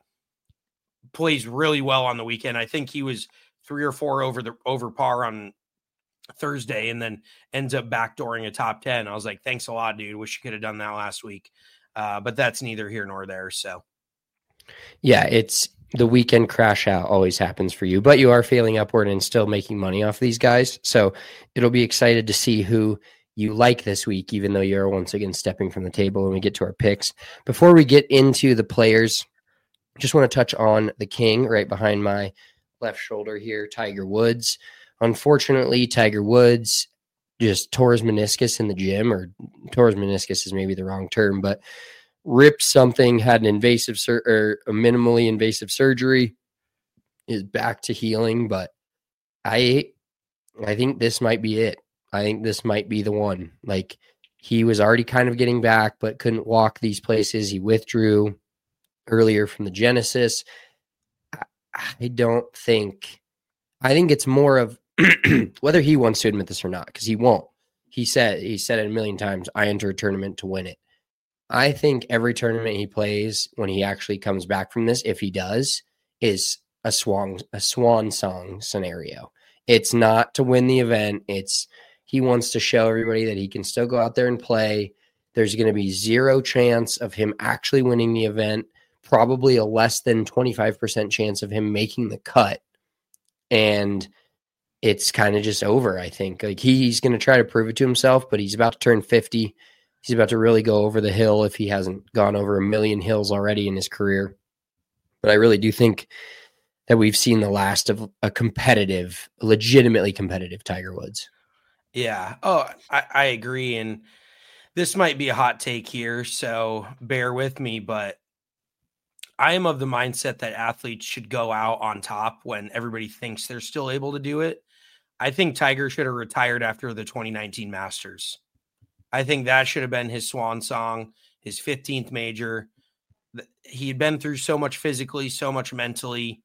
plays really well on the weekend. I think he was three or four over the, over par on Thursday and then ends up backdooring a top ten. I was like, thanks a lot, dude. Wish you could have done that last week. Uh, but that's neither here nor there. So yeah, it's the weekend crash out always happens for you, but you are failing upward and still making money off these guys. So it'll be excited to see who you like this week, even though you're once again stepping from the table when we get to our picks. Before we get into the players, just want to touch on the king right behind my left shoulder here, Tiger Woods. Unfortunately, Tiger Woods just tore his meniscus in the gym, or tore his meniscus is maybe the wrong term, but ripped something, had an invasive sur- or a minimally invasive surgery, is back to healing. But I, I think this might be it. I think this might be the one. Like, he was already kind of getting back, but couldn't walk these places. He withdrew earlier from the Genesis. I, I don't think, I think it's more of whether he wants to admit this or not, because he won't. He said, he said it a million times, I enter a tournament to win it. I think every tournament he plays, when he actually comes back from this, if he does, is a swan, a swan song scenario. It's not to win the event. It's, he wants to show everybody that he can still go out there and play. There's going to be zero chance of him actually winning the event, probably a less than twenty-five percent chance of him making the cut. And it's kind of just over, I think. Like, he's going to try to prove it to himself, but he's about to turn fifty. He's about to really go over the hill if he hasn't gone over a million hills already in his career. But I really do think that we've seen the last of a competitive, legitimately competitive Tiger Woods. Yeah. Oh, I, I agree. And this might be a hot take here, so bear with me, but I am of the mindset that athletes should go out on top when everybody thinks they're still able to do it. I think Tiger should have retired after the twenty nineteen Masters. I think that should have been his swan song, his fifteenth major. He had been through so much physically, so much mentally.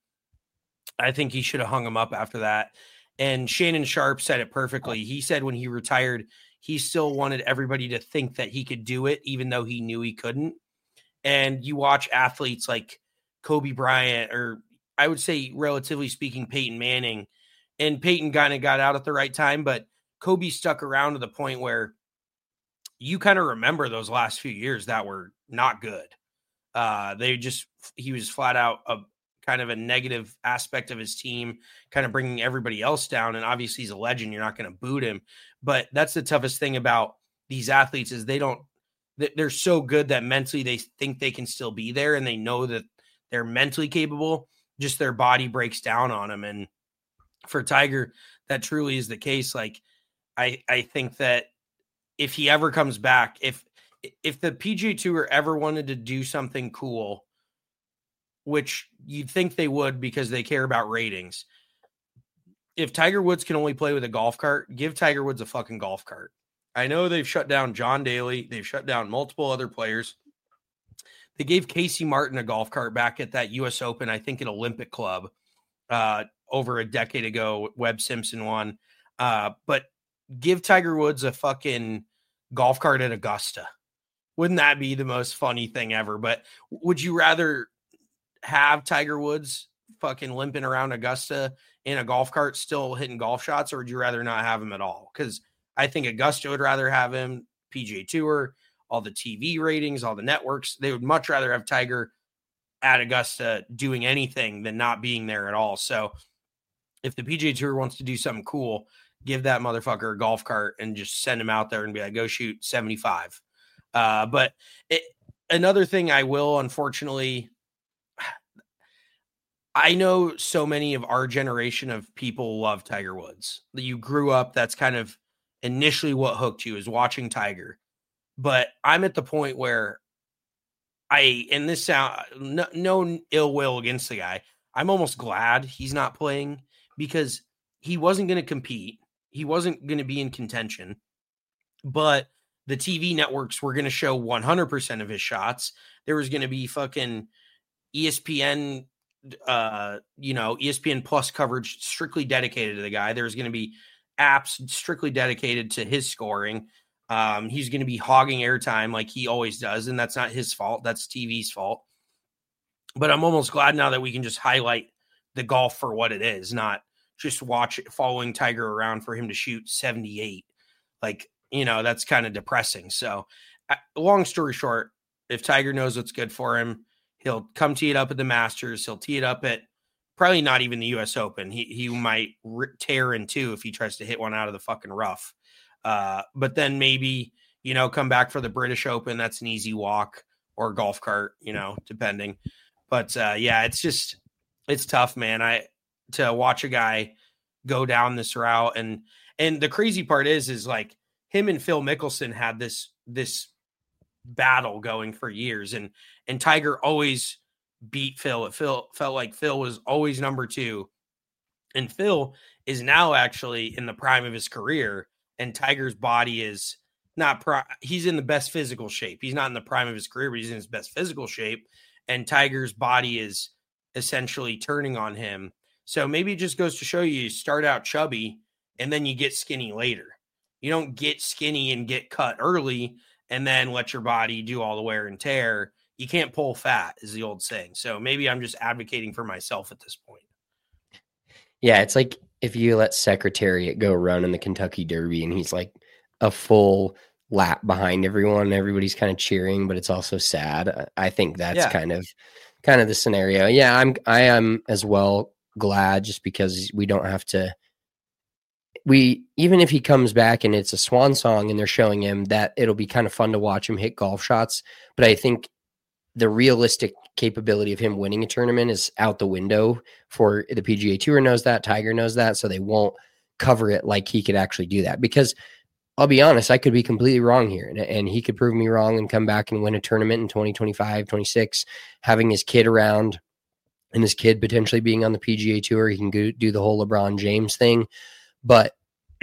I think he should have hung him up after that. And Shannon Sharpe said it perfectly. He said when he retired, he still wanted everybody to think that he could do it, even though he knew he couldn't. And you watch athletes like Kobe Bryant, or I would say, relatively speaking, Peyton Manning. And Peyton kind of got out at the right time, but Kobe stuck around to the point where you kind of remember those last few years that were not good. Uh, they just, he was flat out a kind of a negative aspect of his team, kind of bringing everybody else down. And obviously he's a legend. You're not going to boot him, but that's the toughest thing about these athletes is they don't, they're so good that mentally they think they can still be there and they know that they're mentally capable, just their body breaks down on them. And for Tiger, that truly is the case. Like, I, I think that if he ever comes back, if, if the P G A Tour ever wanted to do something cool, which you'd think they would because they care about ratings, if Tiger Woods can only play with a golf cart, give Tiger Woods a fucking golf cart. I know they've shut down John Daly. They've shut down multiple other players. They gave Casey Martin a golf cart back at that U S Open, I think at Olympic Club, uh, over a decade ago. Webb Simpson won. Uh, but give Tiger Woods a fucking golf cart at Augusta. Wouldn't that be the most funny thing ever? But would you rather have Tiger Woods fucking limping around Augusta in a golf cart still hitting golf shots, or would you rather not have him at all? Because I think Augusta would rather have him, P G A Tour, all the T V ratings, all the networks. They would much rather have Tiger at Augusta doing anything than not being there at all. So if the P G A Tour wants to do something cool, give that motherfucker a golf cart and just send him out there and be like, go shoot seventy-five. Uh, but it, another thing I will, unfortunately, I know so many of our generation of people love Tiger Woods. You grew up, that's kind of initially what hooked you, is watching Tiger. But I'm at the point where I, and this sound, no, no ill will against the guy, I'm almost glad he's not playing because he wasn't going to compete. he wasn't going to be in contention, but the T V networks were going to show one hundred percent of his shots. There was going to be fucking E S P N, uh, you know, E S P N Plus coverage strictly dedicated to the guy. There's going to be apps strictly dedicated to his scoring. Um, he's going to be hogging airtime like he always does, and that's not his fault. That's T V's fault. But I'm almost glad now that we can just highlight the golf for what it is, not just watch it, following Tiger around for him to shoot seventy-eight. Like, you know, that's kind of depressing. So uh, long story short, if Tiger knows what's good for him, he'll come tee it up at the Masters. He'll tee it up at probably not even the U S Open. He he might rip, tear in two if he tries to hit one out of the fucking rough. Uh, but then maybe, you know, come back for the British Open. That's an easy walk or golf cart, you know, depending. But uh, yeah, it's just, it's tough, man. I, to watch a guy go down this route. And, and the crazy part is, is like him and Phil Mickelson had this, this battle going for years. And, and Tiger always beat Phil. It Phil felt like Phil was always number two. And Phil is now actually in the prime of his career. And Tiger's body is not, pro- he's in the best physical shape. He's not in the prime of his career, but he's in his best physical shape. And Tiger's body is essentially turning on him. So maybe it just goes to show you, you start out chubby and then you get skinny later. You don't get skinny and get cut early and then let your body do all the wear and tear. You can't pull fat, is the old saying. So maybe I'm just advocating for myself at this point. Yeah, it's like if you let Secretariat go run in the Kentucky Derby and he's like a full lap behind everyone, everybody's kind of cheering, but it's also sad. I think that's yeah. kind of kind of the scenario. Yeah, I'm I am as well glad, just because we don't have to we even if he comes back and it's a swan song and they're showing him that, it'll be kind of fun to watch him hit golf shots. But I think the realistic capability of him winning a tournament is out the window for the P G A Tour knows that, Tiger knows that, so they won't cover it like he could actually do that. Because I'll be honest, I could be completely wrong here, and, and he could prove me wrong and come back and win a tournament in twenty twenty-five, twenty-six, having his kid around and his kid potentially being on the P G A Tour. He can go, do the whole LeBron James thing. But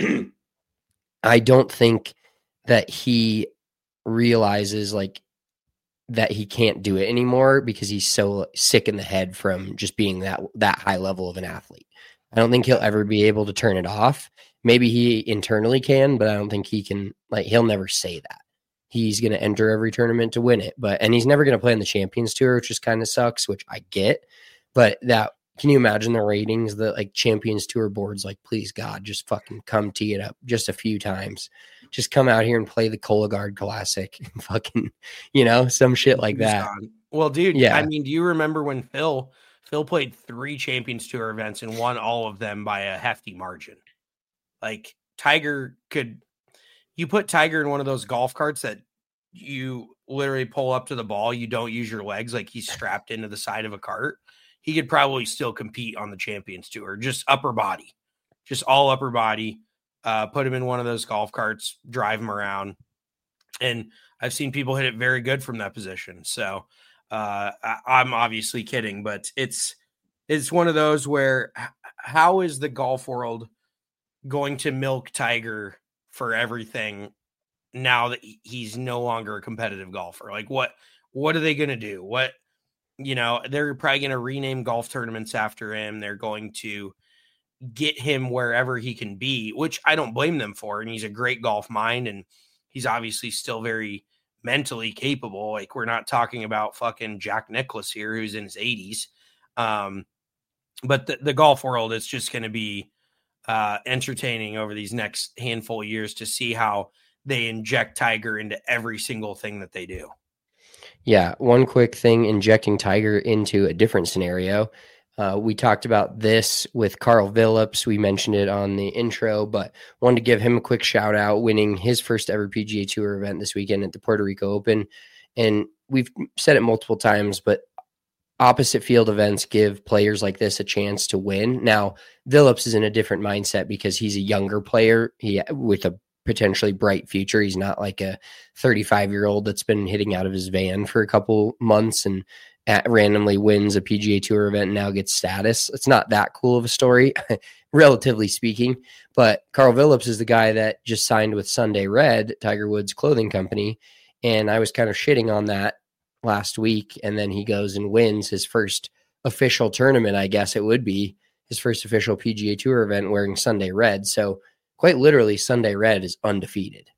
I don't think that he realizes like that he can't do it anymore because he's so sick in the head from just being that that high level of an athlete. I don't think he'll ever be able to turn it off. Maybe he internally can, but I don't think he can, like, he'll never say that. He's going to enter every tournament to win it, but, and he's never going to play in the Champions Tour, which just kind of sucks, which I get. But that, can you imagine the ratings that like Champions Tour boards, like, please God, just fucking come tee it up just a few times. Just come out here and play the Cologuard Classic. Fucking, you know, some shit like that. Well, dude, yeah. I mean, do you remember when Phil, Phil played three Champions Tour events and won all of them by a hefty margin? Like Tiger could, you put Tiger in one of those golf carts that you literally pull up to the ball. You don't use your legs. Like he's strapped into the side of a cart. He could probably still compete on the Champions Tour, just upper body, just all upper body. Uh, put him in one of those golf carts, drive him around. And I've seen people hit it very good from that position. So uh, I, I'm obviously kidding, but it's, it's one of those where how is the golf world going to milk Tiger for everything now that he's no longer a competitive golfer? Like what, what are they going to do? What, you know, they're probably going to rename golf tournaments after him. They're going to get him wherever he can be, which I don't blame them for. And he's a great golf mind. And he's obviously still very mentally capable. Like we're not talking about fucking Jack Nicklaus here, who's in his eighties. Um, but the, the golf world is just going to be, Uh, entertaining over these next handful of years to see how they inject Tiger into every single thing that they do. Yeah. One quick thing, injecting Tiger into a different scenario. Uh, we talked about this with Carl Phillips. We mentioned it on the intro, but wanted to give him a quick shout out, winning his first ever P G A Tour event this weekend at the Puerto Rico Open. And we've said it multiple times, but opposite field events give players like this a chance to win. Now, Phillips is in a different mindset because he's a younger player he with a potentially bright future. He's not like a thirty-five-year-old that's been hitting out of his van for a couple months and at, randomly wins a P G A Tour event and now gets status. It's not that cool of a story, relatively speaking. But Carl Phillips is the guy that just signed with Sunday Red, Tiger Woods' clothing company. And I was kind of shitting on that last week. And then he goes and wins his first official tournament, I guess it would be his first official P G A Tour event wearing Sunday Red. So quite literally, Sunday Red is undefeated.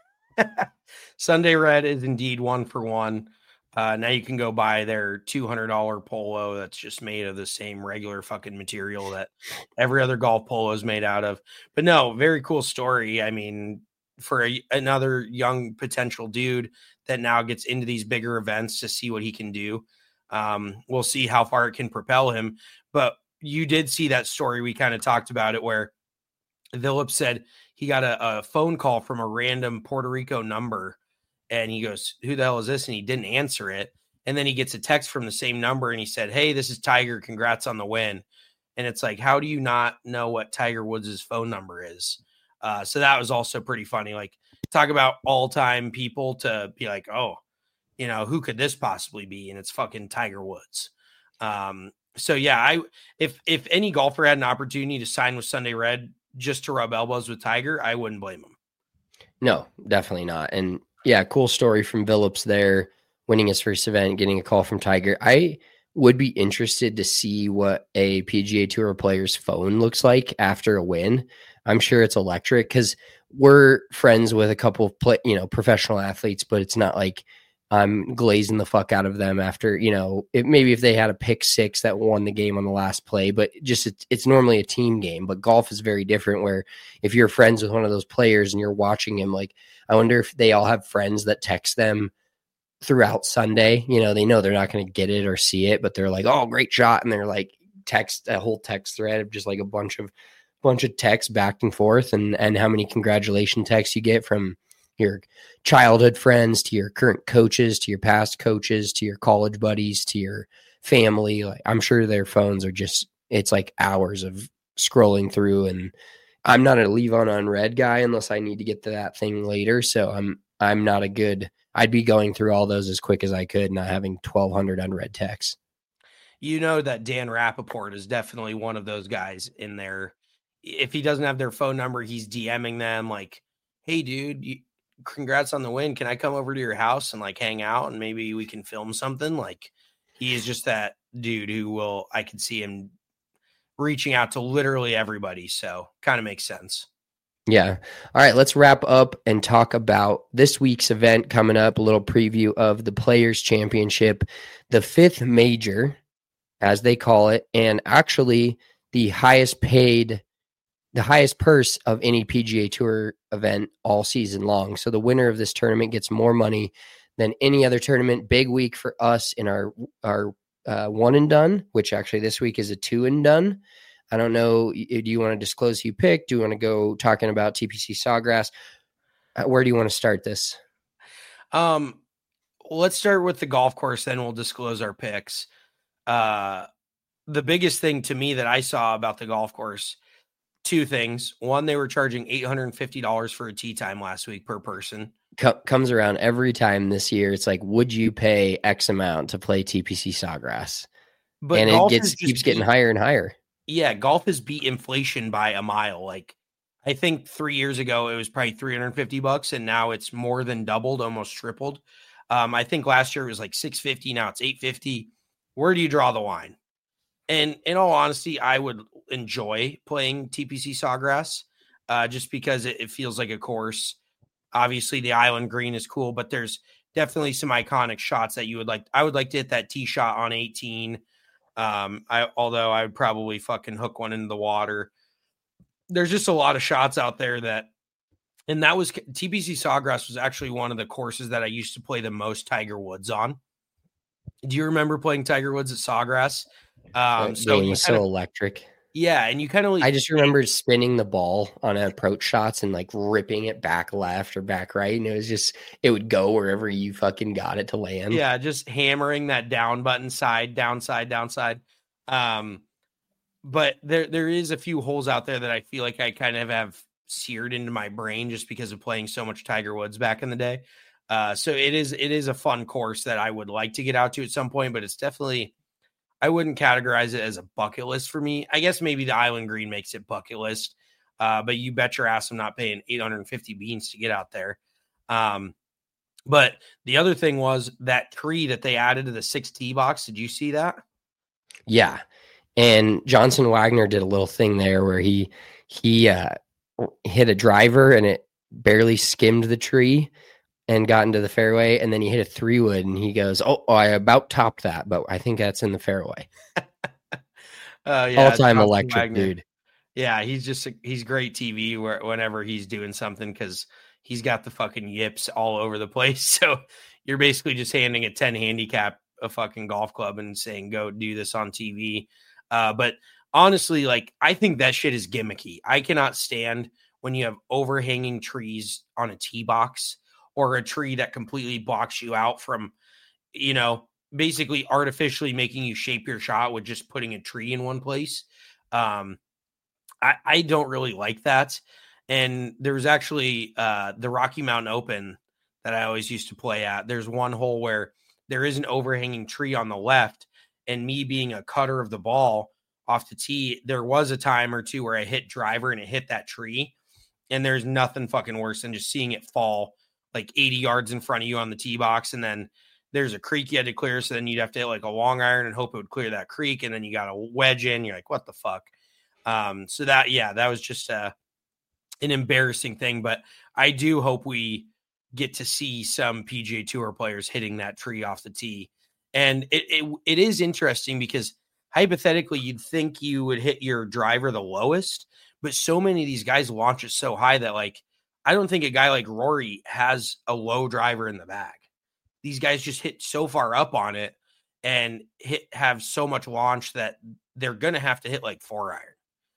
Sunday Red is indeed one for one. Uh, now you can go buy their two hundred dollars polo that's just made of the same regular fucking material that every other golf polo is made out of. But no, very cool story. I mean, for a, another young potential dude that now gets into these bigger events to see what he can do. Um, we'll see how far it can propel him. But you did see that story. We kind of talked about it where Phillips said he got a, a phone call from a random Puerto Rico number. And he goes, who the hell is this? And he didn't answer it. And then he gets a text from the same number and he said, hey, this is Tiger. Congrats on the win. And it's like, how do you not know what Tiger Woods' phone number is? Uh, so that was also pretty funny. Like, talk about all-time people to be like, oh, you know, who could this possibly be? And it's fucking Tiger Woods. Um, so yeah, I if if any golfer had an opportunity to sign with Sunday Red just to rub elbows with Tiger, I wouldn't blame him. No, definitely not. And yeah, cool story from Phillips there, winning his first event, getting a call from Tiger. I would be interested to see what a P G A Tour player's phone looks like after a win. I'm sure it's electric because we're friends with a couple of play, you know, professional athletes, but it's not like I'm glazing the fuck out of them after, you know, it, maybe if they had a pick six that won the game on the last play, but just it's, it's normally a team game. But golf is very different where if you're friends with one of those players and you're watching him, like, I wonder if they all have friends that text them throughout Sunday. You know, they know they're not going to get it or see it, but they're like, oh, great shot. And they're like text a whole text thread of just like a bunch of bunch of texts back and forth, and and how many congratulation texts you get from your childhood friends to your current coaches to your past coaches to your college buddies to your family. Like, I'm sure their phones are just, it's like hours of scrolling through. And I'm not a leave on unread guy unless I need to get to that thing later. So I'm I'm not a good, I'd be going through all those as quick as I could, not having twelve hundred unread texts. You know that Dan Rappaport is definitely one of those guys in there. If he doesn't have their phone number, he's DMing them like, hey, dude, you, congrats on the win. Can I come over to your house and like hang out and maybe we can film something? Like, he is just that dude who will, I could see him reaching out to literally everybody. So kind of makes sense. Yeah. All right. Let's wrap up and talk about this week's event coming up. A little preview of the Players Championship, the fifth major, as they call it, and actually the highest paid the highest purse of any P G A Tour event all season long. So the winner of this tournament gets more money than any other tournament. Big week for us in our, our uh, one and done, which actually this week is a two and done. I don't know. Do you want to disclose who you picked? Do you want to go talking about T P C Sawgrass? Where do you want to start this? Um, let's start with the golf course, then we'll disclose our picks. Uh, the biggest thing to me that I saw about the golf course, two things. One, they were charging eight hundred fifty dollars for a tee time last week per person. Co- comes around every time this year. It's like, would you pay X amount to play T P C Sawgrass? But and it gets keeps getting beat, higher and higher. Yeah, golf has beat inflation by a mile. Like, I think three years ago it was probably three hundred fifty bucks, and now it's more than doubled, almost tripled. Um, I think last year it was like six fifty. Now it's eight fifty. Where do you draw the line? And in all honesty, I would enjoy playing T P C Sawgrass uh, just because it, it feels like a course. Obviously, the island green is cool, but there's definitely some iconic shots that you would like. I would like to hit that tee shot on eighteen. Um, I although I would probably fucking hook one into the water. There's just a lot of shots out there that, and that was T P C Sawgrass was actually one of the courses that I used to play the most Tiger Woods on. Do you remember playing Tiger Woods at Sawgrass? Um, so it was so electric. Yeah, and you kind of. I just remember spinning the ball on approach shots and like ripping it back left or back right, and it was just it would go wherever you fucking got it to land. Yeah, just hammering that down button, side, downside, downside. Um, but there there is a few holes out there that I feel like I kind of have seared into my brain just because of playing so much Tiger Woods back in the day. Uh, so it is it is a fun course that I would like to get out to at some point, but it's definitely, I wouldn't categorize it as a bucket list for me. I guess maybe the Island Green makes it bucket list, uh, but you bet your ass I'm not paying eight hundred fifty beans to get out there. Um, but the other thing was that tree that they added to the six tee box. Did you see that? Yeah. And Johnson Wagner did a little thing there where he he uh, hit a driver and it barely skimmed the tree and got into the fairway. And then he hit a three wood and he goes, oh, oh I about topped that, but I think that's in the fairway. uh, yeah, All-time Johnson electric Wagner. dude. Yeah, he's just he's great T V where, whenever he's doing something because he's got the fucking yips all over the place. So you're basically just handing a ten handicap a fucking golf club and saying, go do this on T V. Uh, but honestly, like, I think that shit is gimmicky. I cannot stand when you have overhanging trees on a tee box or a tree that completely blocks you out from, you know, basically artificially making you shape your shot with just putting a tree in one place. Um, I, I don't really like that. And there's actually uh, the Rocky Mountain Open that I always used to play at. There's one hole where there is an overhanging tree on the left, and me being a cutter of the ball off the tee, there was a time or two where I hit driver and it hit that tree. And there's nothing fucking worse than just seeing it fall like eighty yards in front of you on the tee box. And then there's a creek you had to clear. So then you'd have to hit like a long iron and hope it would clear that creek. And then you got a wedge in. You're like, what the fuck? Um, so that, yeah, that was just a, an embarrassing thing. But I do hope we get to see some P G A Tour players hitting that tree off the tee. And it, it it is interesting because hypothetically, you'd think you would hit your driver the lowest, but so many of these guys launch it so high that, like, I don't think a guy like Rory has a low driver in the bag. These guys just hit so far up on it and hit have so much launch that they're going to have to hit like four iron.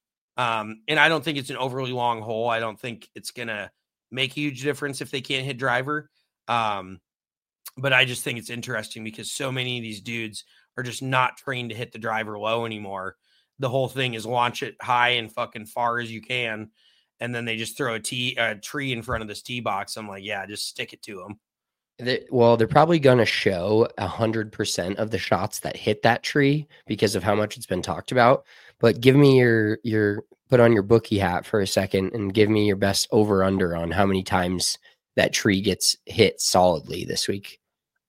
Um, and I don't think it's an overly long hole. I don't think it's going to make a huge difference if they can't hit driver. Um, But I just think it's interesting because so many of these dudes are just not trained to hit the driver low anymore. The whole thing is launch it high and fucking far as you can. And then they just throw a tee, a tree in front of this tee box. I'm like, yeah, just stick it to them. They, well, they're probably going to show one hundred percent of the shots that hit that tree because of how much it's been talked about. But give me your, your put on your bookie hat for a second and give me your best over under on how many times that tree gets hit solidly this week.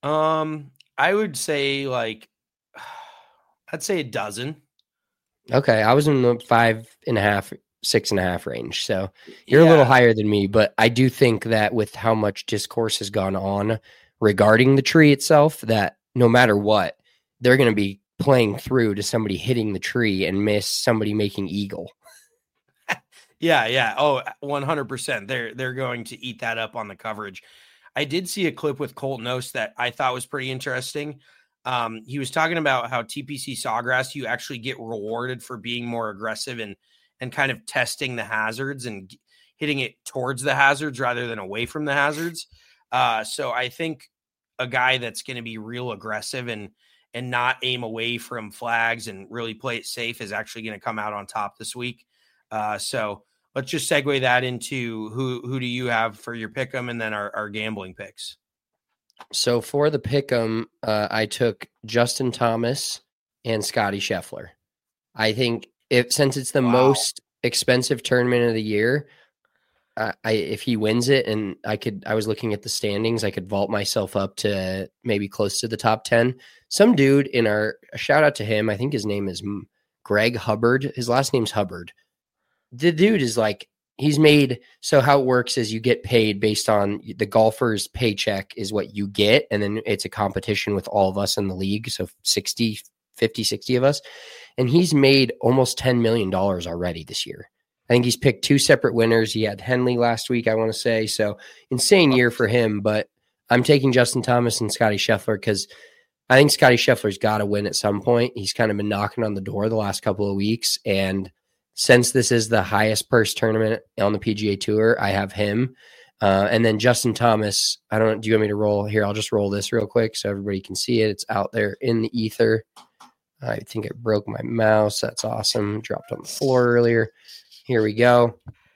Um, I would say like, I'd say a dozen. Okay. I was in the five and a half, six and a half range. So you're Yeah. a little higher than me, but I do think that with how much discourse has gone on regarding the tree itself, that no matter what, they're going to be playing through to somebody hitting the tree and miss somebody making eagle. Yeah, yeah. Oh, one hundred percent. They're they're going to eat that up on the coverage. I did see a clip with Colt Knost that I thought was pretty interesting. Um, he was talking about how T P C Sawgrass, you actually get rewarded for being more aggressive and and kind of testing the hazards and g- hitting it towards the hazards rather than away from the hazards. Uh, so I think a guy that's going to be real aggressive and and not aim away from flags and really play it safe is actually going to come out on top this week. Uh, so let's just segue that into who who do you have for your pick'em and then our, our gambling picks. So for the pick'em, uh, I took Justin Thomas and Scotty Scheffler. I think if since it's the Wow. most expensive tournament of the year, uh, I if he wins it, and I could, I was looking at the standings, I could vault myself up to maybe close to the top ten. Some dude in our a shout out to him. I think his name is Greg Hubbard. His last name's Hubbard. The dude is like. He's made, so how it works is you get paid based on the golfer's paycheck is what you get. And then it's a competition with all of us in the league. So sixty, fifty, sixty of us. And he's made almost ten million dollars already this year. I think he's picked two separate winners. He had Henley last week, I want to say. So insane year for him. But I'm taking Justin Thomas and Scotty Scheffler because I think Scotty Scheffler's got to win at some point. He's kind of been knocking on the door the last couple of weeks. And since this is the highest purse tournament on the P G A Tour, I have him. Uh, and then Justin Thomas, I don't know, do you want me to roll here? I'll just roll this real quick so everybody can see it. It's out there in the ether. I think it broke my mouse. That's awesome. Dropped on the floor earlier. Here we go.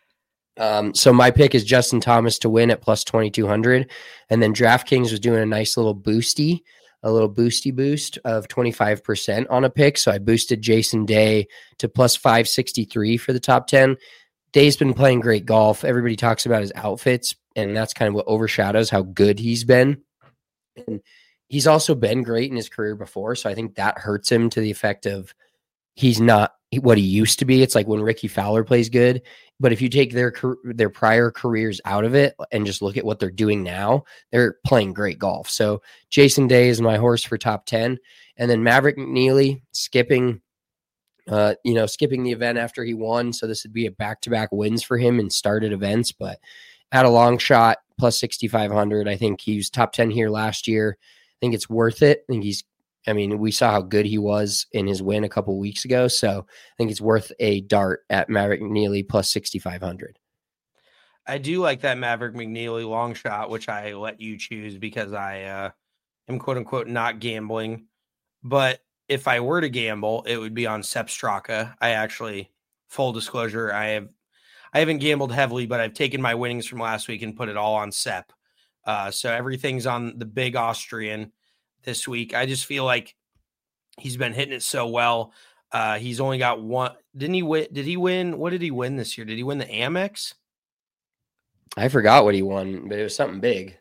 Um, so my pick is Justin Thomas to win at plus twenty-two hundred. And then DraftKings was doing a nice little boosty, a little boosty boost of twenty-five percent on a pick. So I boosted Jason Day to plus five sixty-three for the top ten. Day's been playing great golf. Everybody talks about his outfits, and that's kind of what overshadows how good he's been. And he's also been great in his career before. So I think that hurts him to the effect of he's not what he used to be. It's like when Ricky Fowler plays good. But if you take their their prior careers out of it and just look at what they're doing now, they're playing great golf. So Jason Day is my horse for top ten. And then Maverick McNeely skipping, uh, you know, skipping the event after he won. So this would be a back-to-back wins for him in started events. But at a long shot, plus sixty-five hundred. I think he was top ten here last year. I think it's worth it. I think he's I mean, we saw how good he was in his win a couple weeks ago. So I think it's worth a dart at Maverick McNeely plus sixty-five hundred. I do like that Maverick McNeely long shot, which I let you choose because I uh, am quote unquote not gambling. But if I were to gamble, it would be on Sepp Straka. I actually, full disclosure, I have I haven't gambled heavily, but I've taken my winnings from last week and put it all on Sepp. Uh, so everything's on the big Austrian this week. I just feel like he's been hitting it so well. Uh, he's only got one. Didn't he win? Did he win? What did he win this year? Did he win the Amex? I forgot what he won, but it was something big.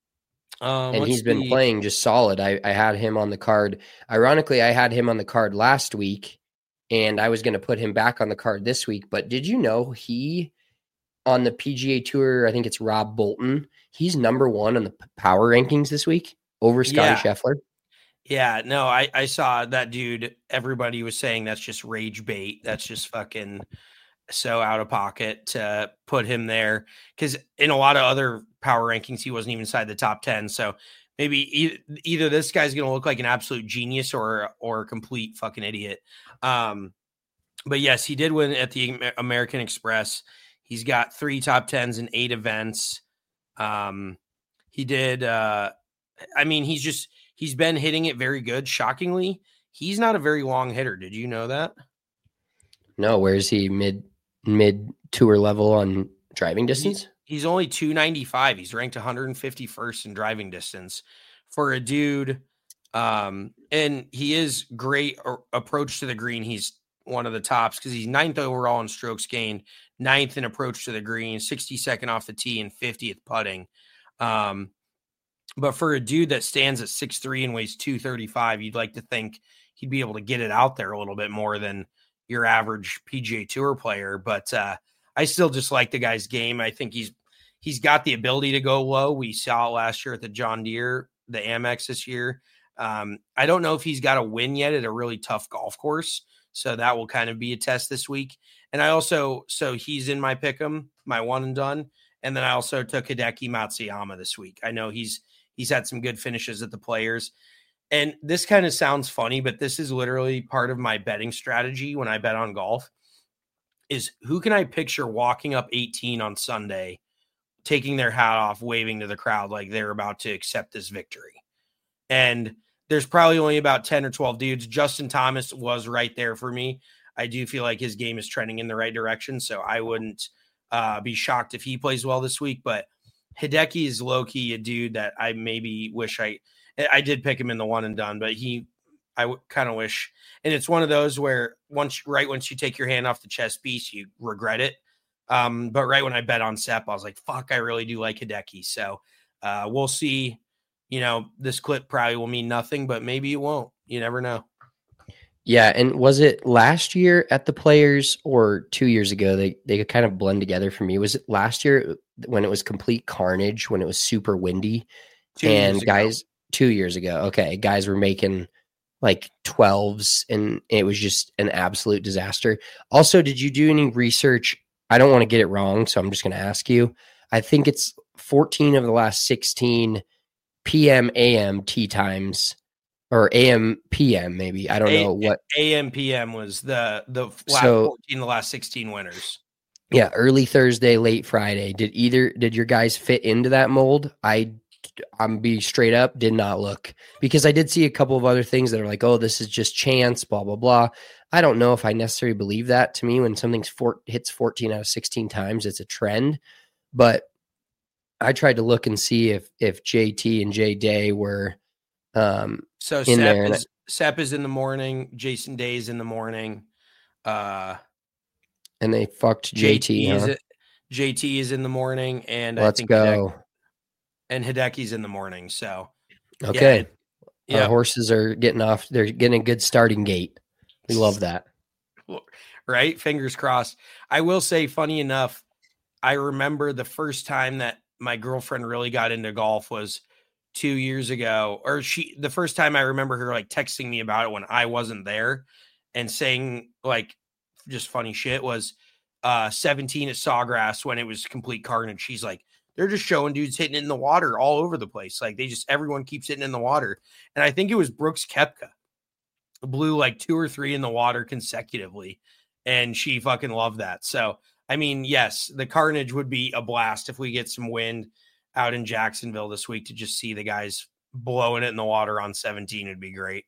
Um, and he's been the... playing just solid. I, I had him on the card. Ironically, I had him on the card last week, and I was going to put him back on the card this week. But did you know he, on the P G A Tour, I think it's Rob Bolton, he's number one on the power rankings this week over Scotty yeah. Scheffler. Yeah, no, I, I saw that dude. Everybody was saying that's just rage bait. That's just fucking so out of pocket to put him there. Because in a lot of other power rankings, he wasn't even inside the top ten. So maybe e- either this guy's going to look like an absolute genius or or a complete fucking idiot. Um, but yes, he did win at the American Express. He's got three top tens in eight events. Um, he did. Uh, I mean, he's just. He's been hitting it very good. Shockingly, he's not a very long hitter. Did you know that? No, where is he? Mid mid tour level on driving distance? He's, he's only two ninety-five. He's ranked one hundred fifty-first in driving distance for a dude. Um, and he is great approach to the green. He's one of the tops because he's ninth overall in strokes gained, ninth in approach to the green, sixty-second off the tee, and fiftieth putting. Um, But for a dude that stands at six three and weighs two thirty-five, you'd like to think he'd be able to get it out there a little bit more than your average P G A Tour player. But uh, I still just like the guy's game. I think he's he's got the ability to go low. We saw it last year at the John Deere, the Amex this year. Um, I don't know if he's got a win yet at a really tough golf course. So that will kind of be a test this week. And I also, so he's in my pick'em, my one and done. And then I also took Hideki Matsuyama this week. I know he's, He's had some good finishes at the Players. And this kind of sounds funny, but this is literally part of my betting strategy when I bet on golf is who can I picture walking up eighteen on Sunday, taking their hat off, waving to the crowd like they're about to accept this victory. And there's probably only about ten or twelve dudes. Justin Thomas was right there for me. I do feel like his game is trending in the right direction, so I wouldn't uh, be shocked if he plays well this week, but Hideki is low-key a dude that I maybe wish I I did pick him in the one and done, but he I w- kind of wish. And it's one of those where once right once you take your hand off the chess piece, you regret it. Um, but right when I bet on Sepp, I was like, fuck, I really do like Hideki. So uh, we'll see. You know, this clip probably will mean nothing, but maybe it won't. You never know. Yeah, and was it last year at the Players or two years ago? They they could kind of blend together for me. Was it last year when it was complete carnage, when it was super windy? Two and guys, ago. two years ago. Okay, guys were making like twelves, and it was just an absolute disaster. Also, did you do any research? I don't want to get it wrong, so I'm just going to ask you. I think it's fourteen of the last sixteen P M A M tee times. Or A M P M maybe. I don't A- know what. A M P M was the the last so, fourteen, the last sixteen winners. Yeah, early Thursday, late Friday. Did either did your guys fit into that mold? I I'm be straight up, did not look, because I did see a couple of other things that are like, oh, this is just chance, blah, blah, blah. I don't know if I necessarily believe that. To me, when something's four, hits fourteen out of sixteen times, it's a trend. But I tried to look and see if if J T and J Day were um, so in Sepp there. Is, Sepp is in the morning. Jason Day is in the morning. Uh, and they fucked J T. J T, huh? is, it, J T is in the morning, and Let's I think go. Hideki, and Hideki's in the morning. So okay, yeah, our horses are getting off. They're getting a good starting gate. We love that. Right? Fingers crossed. I will say, funny enough, I remember the first time that my girlfriend really got into golf was two years ago, or she, the first time I remember her like texting me about it when I wasn't there and saying like just funny shit was uh, seventeen at Sawgrass when it was complete carnage. She's like, they're just showing dudes hitting it in the water all over the place. Like they just, everyone keeps hitting in the water. And I think it was Brooks Koepka blew like two or three in the water consecutively. And she fucking loved that. So, I mean, yes, the carnage would be a blast if we get some wind out in Jacksonville this week to just see the guys blowing it in the water on seventeen would be great.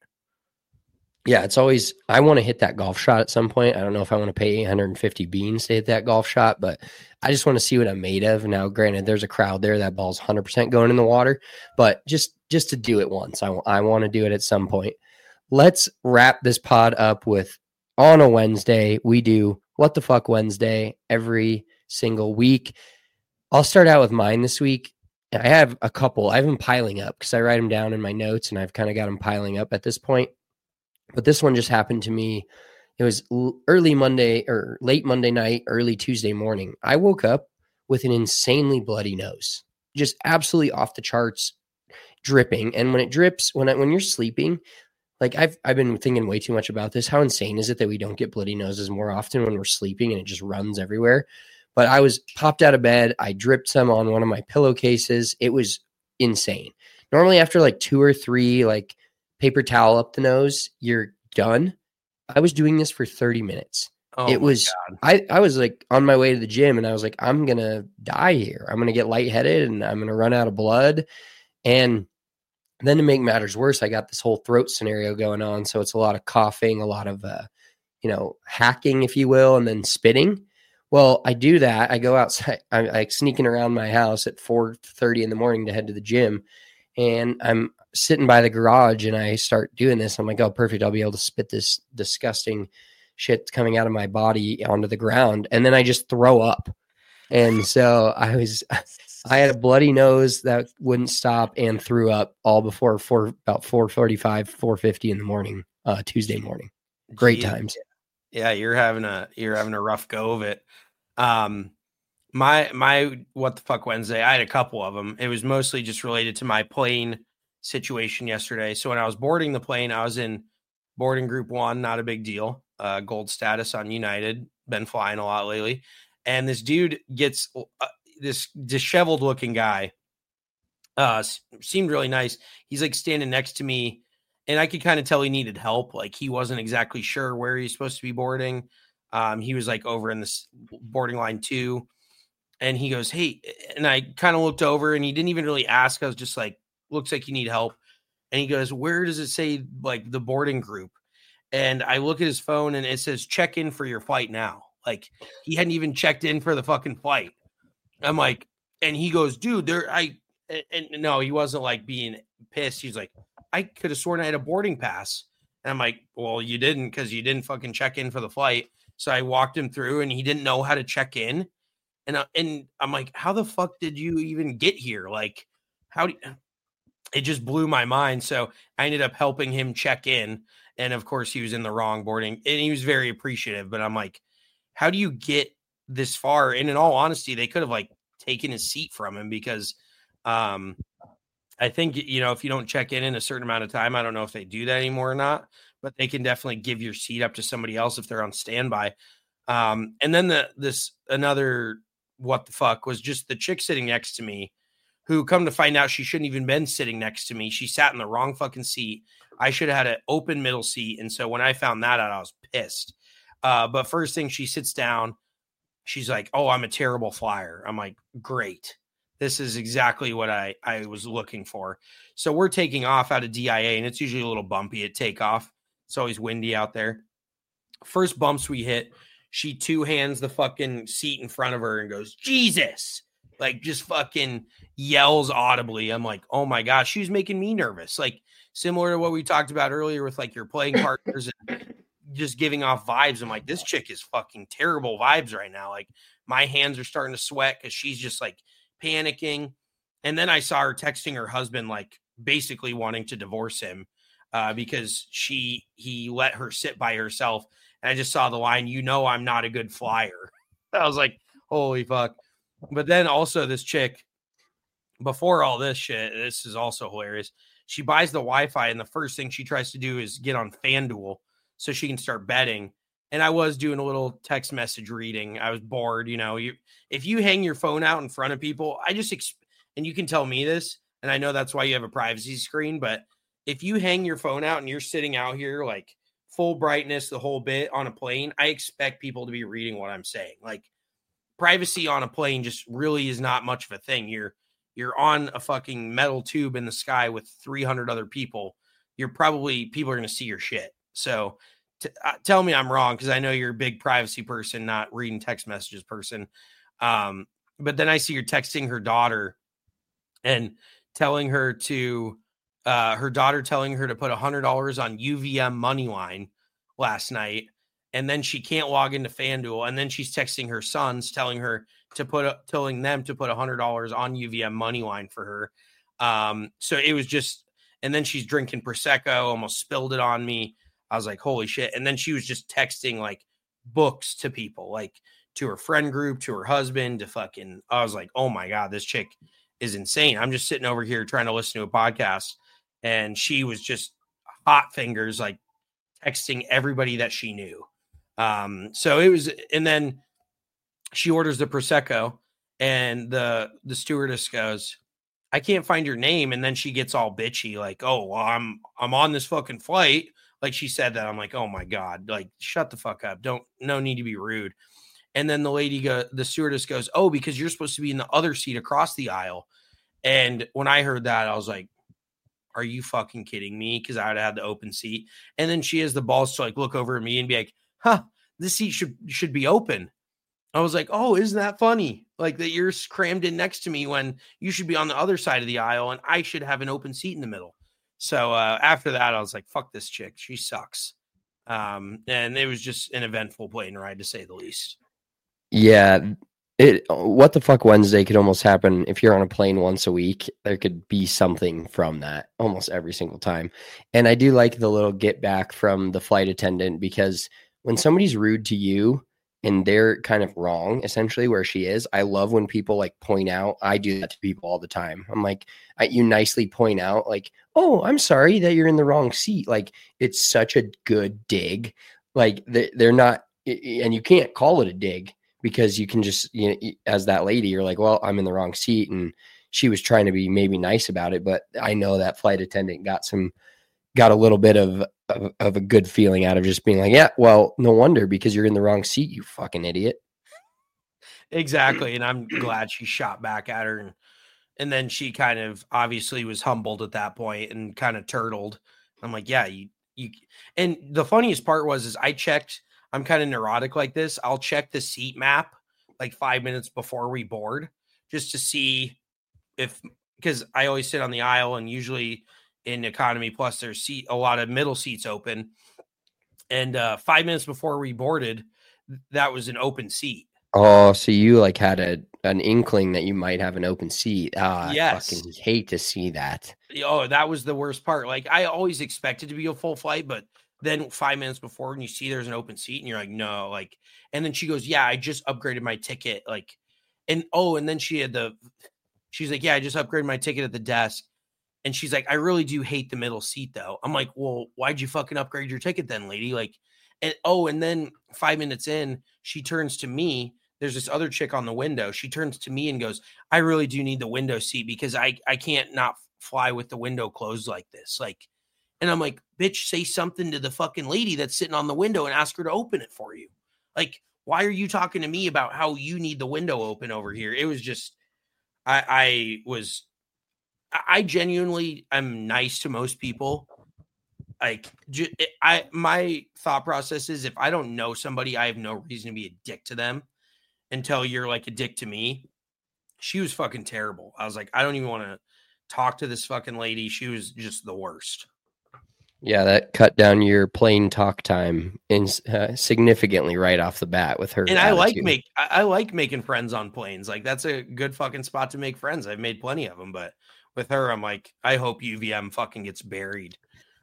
Yeah, it's always, I want to hit that golf shot at some point. I don't know if I want to pay eight hundred fifty beans to hit that golf shot, but I just want to see what I'm made of. Now, granted, there's a crowd there. That ball's one hundred percent going in the water, but just, just to do it once, I, I want to do it at some point. Let's wrap this pod up with, on a Wednesday, we do What the Fuck Wednesday every single week. I'll start out with mine this week. I have a couple. I have them piling up because I write them down in my notes, and I've kind of got them piling up at this point. But this one just happened to me. It was early Monday or late Monday night, early Tuesday morning. I woke up with an insanely bloody nose, just absolutely off the charts, dripping. And when it drips, when I, when you're sleeping, like I've I've been thinking way too much about this. How insane is it that we don't get bloody noses more often when we're sleeping and it just runs everywhere? But I was popped out of bed. I dripped some on one of my pillowcases. It was insane. Normally after like two or three like paper towel up the nose, you're done. I was doing this for thirty minutes. Oh it was, God. I, I was like on my way to the gym and I was like, I'm going to die here. I'm going to get lightheaded and I'm going to run out of blood. And then to make matters worse, I got this whole throat scenario going on. So it's a lot of coughing, a lot of, uh, you know, hacking, if you will, and then spitting. Well, I do that. I go outside. I'm like sneaking around my house at four thirty in the morning to head to the gym. And I'm sitting by the garage and I start doing this. I'm like, oh, perfect. I'll be able to spit this disgusting shit coming out of my body onto the ground. And then I just throw up. And so I was, I had a bloody nose that wouldn't stop and threw up all before four, about four forty-five, four fifty in the morning, uh, Tuesday morning. Great Jeez. times. Yeah. You're having a, you're having a rough go of it. Um, my, my, what the fuck Wednesday, I had a couple of them. It was mostly just related to my plane situation yesterday. So when I was boarding the plane, I was in boarding group one, not a big deal. Uh, gold status on United, been flying a lot lately. And this dude gets uh, this disheveled looking guy, uh, seemed really nice. He's like standing next to me and I could kind of tell he needed help. Like he wasn't exactly sure where he's supposed to be boarding. Um, he was like over in this boarding line two and he goes, hey, and I kind of looked over and he didn't even really ask. I was just like, looks like you need help. And he goes, where does it say like the boarding group? And I look at his phone and it says, check in for your flight now. Like he hadn't even checked in for the fucking flight. I'm like, and he goes, dude, there, I, and, and no, he wasn't like being pissed. He's like, I could have sworn I had a boarding pass. And I'm like, well, you didn't, because you didn't fucking check in for the flight. So I walked him through and he didn't know how to check in. And, I, and I'm like, how the fuck did you even get here? Like, how do you, it just blew my mind. So I ended up helping him check in. And of course he was in the wrong boarding and he was very appreciative, but I'm like, how do you get this far? And in all honesty, they could have like taken his seat from him because um, I think, you know, if you don't check in in a certain amount of time, I don't know if they do that anymore or not, but they can definitely give your seat up to somebody else if they're on standby. Um, and then the, this, another, what the fuck was just the chick sitting next to me who come to find out she shouldn't even been sitting next to me. She sat in the wrong fucking seat. I should have had an open middle seat. And so when I found that out, I was pissed. Uh, but first thing, she sits down. She's like, oh, I'm a terrible flyer. I'm like, great. This is exactly what I, I was looking for. So we're taking off out of D I A, and it's usually a little bumpy at takeoff. It's always windy out there. First bumps we hit, she two hands the fucking seat in front of her and goes, Jesus, like just fucking yells audibly. I'm like, oh my gosh, she was making me nervous. Like similar to what we talked about earlier with like your playing partners and just giving off vibes. I'm like, this chick is fucking terrible vibes right now. Like my hands are starting to sweat because she's just like panicking. And then I saw her texting her husband, like basically wanting to divorce him uh, because she, he let her sit by herself. And I just saw the line, you know, I'm not a good flyer. I was like, holy fuck. But then also this chick, before all this shit, this is also hilarious. She buys the Wi-Fi and the first thing she tries to do is get on FanDuel so she can start betting. And I was doing a little text message reading. I was bored. You know, you, if you hang your phone out in front of people, I just, exp- and you can tell me this, and I know that's why you have a privacy screen, but if you hang your phone out and you're sitting out here, like full brightness, the whole bit on a plane, I expect people to be reading what I'm saying. Like privacy on a plane just really is not much of a thing. You're, you're on a fucking metal tube in the sky with three hundred other people. You're probably, people are going to see your shit. So t- uh, tell me I'm wrong, because I know you're a big privacy person, not reading text messages person. Um, but then I see you're texting her daughter and telling her to, uh, her daughter telling her to put one hundred dollars on U V M Moneyline last night. And then she can't log into FanDuel. And then she's texting her sons, telling her to put, a, telling them to put one hundred dollars on U V M Moneyline for her. Um, so it was just, and then she's drinking Prosecco, almost spilled it on me. I was like, holy shit. And then she was just texting like books to people, like to her friend group, to her husband, to fucking, I was like, oh my God, this chick is insane. I'm just sitting over here trying to listen to a podcast. And she was just hot fingers, like texting everybody that she knew. Um, so it was, and then she orders the Prosecco and the, the stewardess goes, I can't find your name. And then she gets all bitchy, like, oh, well, I'm, I'm on this fucking flight. Like she said that. I'm like, oh my God, like, shut the fuck up. Don't, no need to be rude. And then the lady go, the stewardess goes, oh, because you're supposed to be in the other seat across the aisle. And when I heard that, I was like, are you fucking kidding me? Cause I would have had the open seat. And then she has the balls to like look over at me and be like, huh, this seat should, should be open. I was like, oh, isn't that funny? Like that you're crammed in next to me when you should be on the other side of the aisle and I should have an open seat in the middle. So uh, after that, I was like, fuck this chick. She sucks. Um, and it was just an eventful plane ride, to say the least. Yeah. It, what the fuck Wednesday could almost happen if you're on a plane once a week. There could be something from that almost every single time. And I do like the little get back from the flight attendant, because when somebody's rude to you and they're kind of wrong, essentially where she is, I love when people like point out. I do that to people all the time. I'm like, I, you nicely point out like, oh, I'm sorry that you're in the wrong seat. Like it's such a good dig. Like they, they're not, and you can't call it a dig, because you can just, you know, as that lady, you're like, well, I'm in the wrong seat. And she was trying to be maybe nice about it. But I know that flight attendant got some, got a little bit of, of, of a good feeling out of just being like, yeah, well, no wonder, because you're in the wrong seat, you fucking idiot. Exactly. And I'm glad she shot back at her. And, and then she kind of obviously was humbled at that point and kind of turtled. I'm like, yeah, you, you, and the funniest part was, is I checked, I'm kind of neurotic like this. I'll check the seat map like five minutes before we board, just to see if, because I always sit on the aisle, and usually in economy plus there's seat, a lot of middle seats open. And uh, five minutes before we boarded, that was an open seat. Oh, so you like had a an inkling that you might have an open seat. Ah, yes. I fucking hate to see that. Oh, that was the worst part. Like I always expected to be a full flight, but then five minutes before, and you see there's an open seat, and you're like, no, like, and then she goes, yeah, I just upgraded my ticket. Like, and oh, and then she had the, she's like, yeah, I just upgraded my ticket at the desk. And she's like, I really do hate the middle seat though. I'm like, well, why'd you fucking upgrade your ticket then, lady? Like, and oh, and then five minutes in, she turns to me. There's this other chick on the window. She turns to me and goes, I really do need the window seat, because I, I can't not fly with the window closed like this. Like, and I'm like, bitch, say something to the fucking lady that's sitting on the window and ask her to open it for you. Like, why are you talking to me about how you need the window open over here? It was just, I, I was, I genuinely am nice to most people. Like, I, my thought process is if I don't know somebody, I have no reason to be a dick to them until you're like a dick to me. She was fucking terrible. I was like, I don't even want to talk to this fucking lady. She was just the worst. Yeah, that cut down your plane talk time in uh, significantly right off the bat with her. And attitude. I like make I, I like making friends on planes. Like that's a good fucking spot to make friends. I've made plenty of them, but with her, I'm like, I hope U V M fucking gets buried.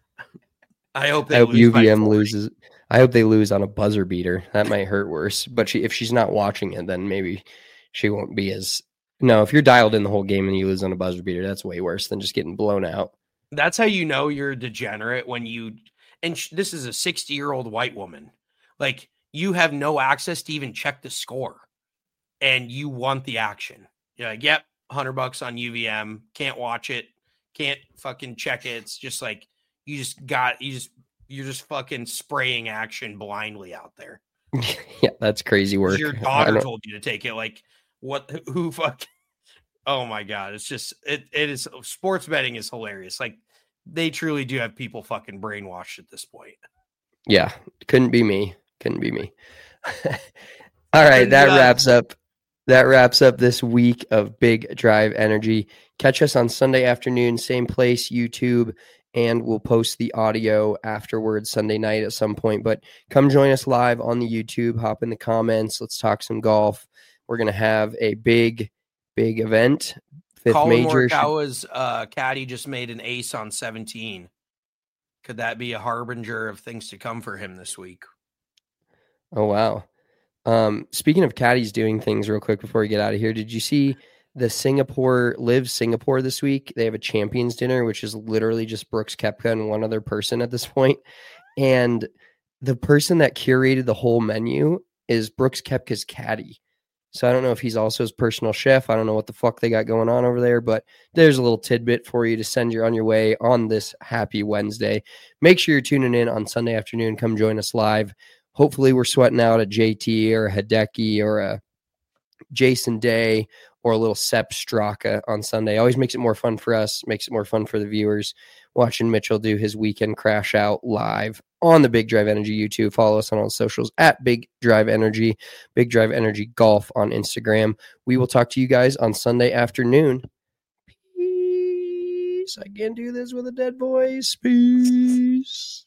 I hope they I hope lose U V M loses. I hope they lose on a buzzer beater. That might hurt worse. But she, if she's not watching it, then maybe she won't be as. No, if you're dialed in the whole game and you lose on a buzzer beater, that's way worse than just getting blown out. That's how you know you're a degenerate when you. And sh- this is a sixty-year-old white woman. Like you have no access to even check the score, and you want the action. You're like, yep, hundred bucks on U V M. Can't watch it. Can't fucking check it. It's just like. You just got you just you're just fucking spraying action blindly out there. Yeah, that's crazy work. Your daughter told you to take it. Like what? Who fuck? Oh my god! It's just it. It is sports betting is hilarious. Like they truly do have people fucking brainwashed at this point. Yeah, couldn't be me. Couldn't be me. All right, that uh, wraps up. That wraps up this week of Big Drive Energy. Catch us on Sunday afternoon, same place, YouTube. And we'll post the audio afterwards Sunday night at some point. But come join us live on the YouTube. Hop in the comments. Let's talk some golf. We're going to have a big, big event. Fifth Colin major. Morikawa's uh, caddy just made an ace on seventeen. Could that be a harbinger of things to come for him this week? Oh, wow. Um, speaking of caddies doing things real quick before we get out of here, did you see the Singapore Live Singapore this week? They have a champions dinner, which is literally just Brooks Koepka and one other person at this point. And the person that curated the whole menu is Brooks Koepka's caddy. So I don't know if he's also his personal chef. I don't know what the fuck they got going on over there, but there's a little tidbit for you to send you on your way on this happy Wednesday. Make sure you're tuning in on Sunday afternoon. Come join us live. Hopefully we're sweating out a J T or a Hideki or a Jason Day or a little Sepp Straka on Sunday. Always makes it more fun for us, makes it more fun for the viewers. Watching Mitchell do his weekend crash out live on the Big Drive Energy YouTube. Follow us on all the socials at Big Drive Energy, Big Drive Energy Golf on Instagram. We will talk to you guys on Sunday afternoon. Peace. I can't do this with a dead voice. Peace.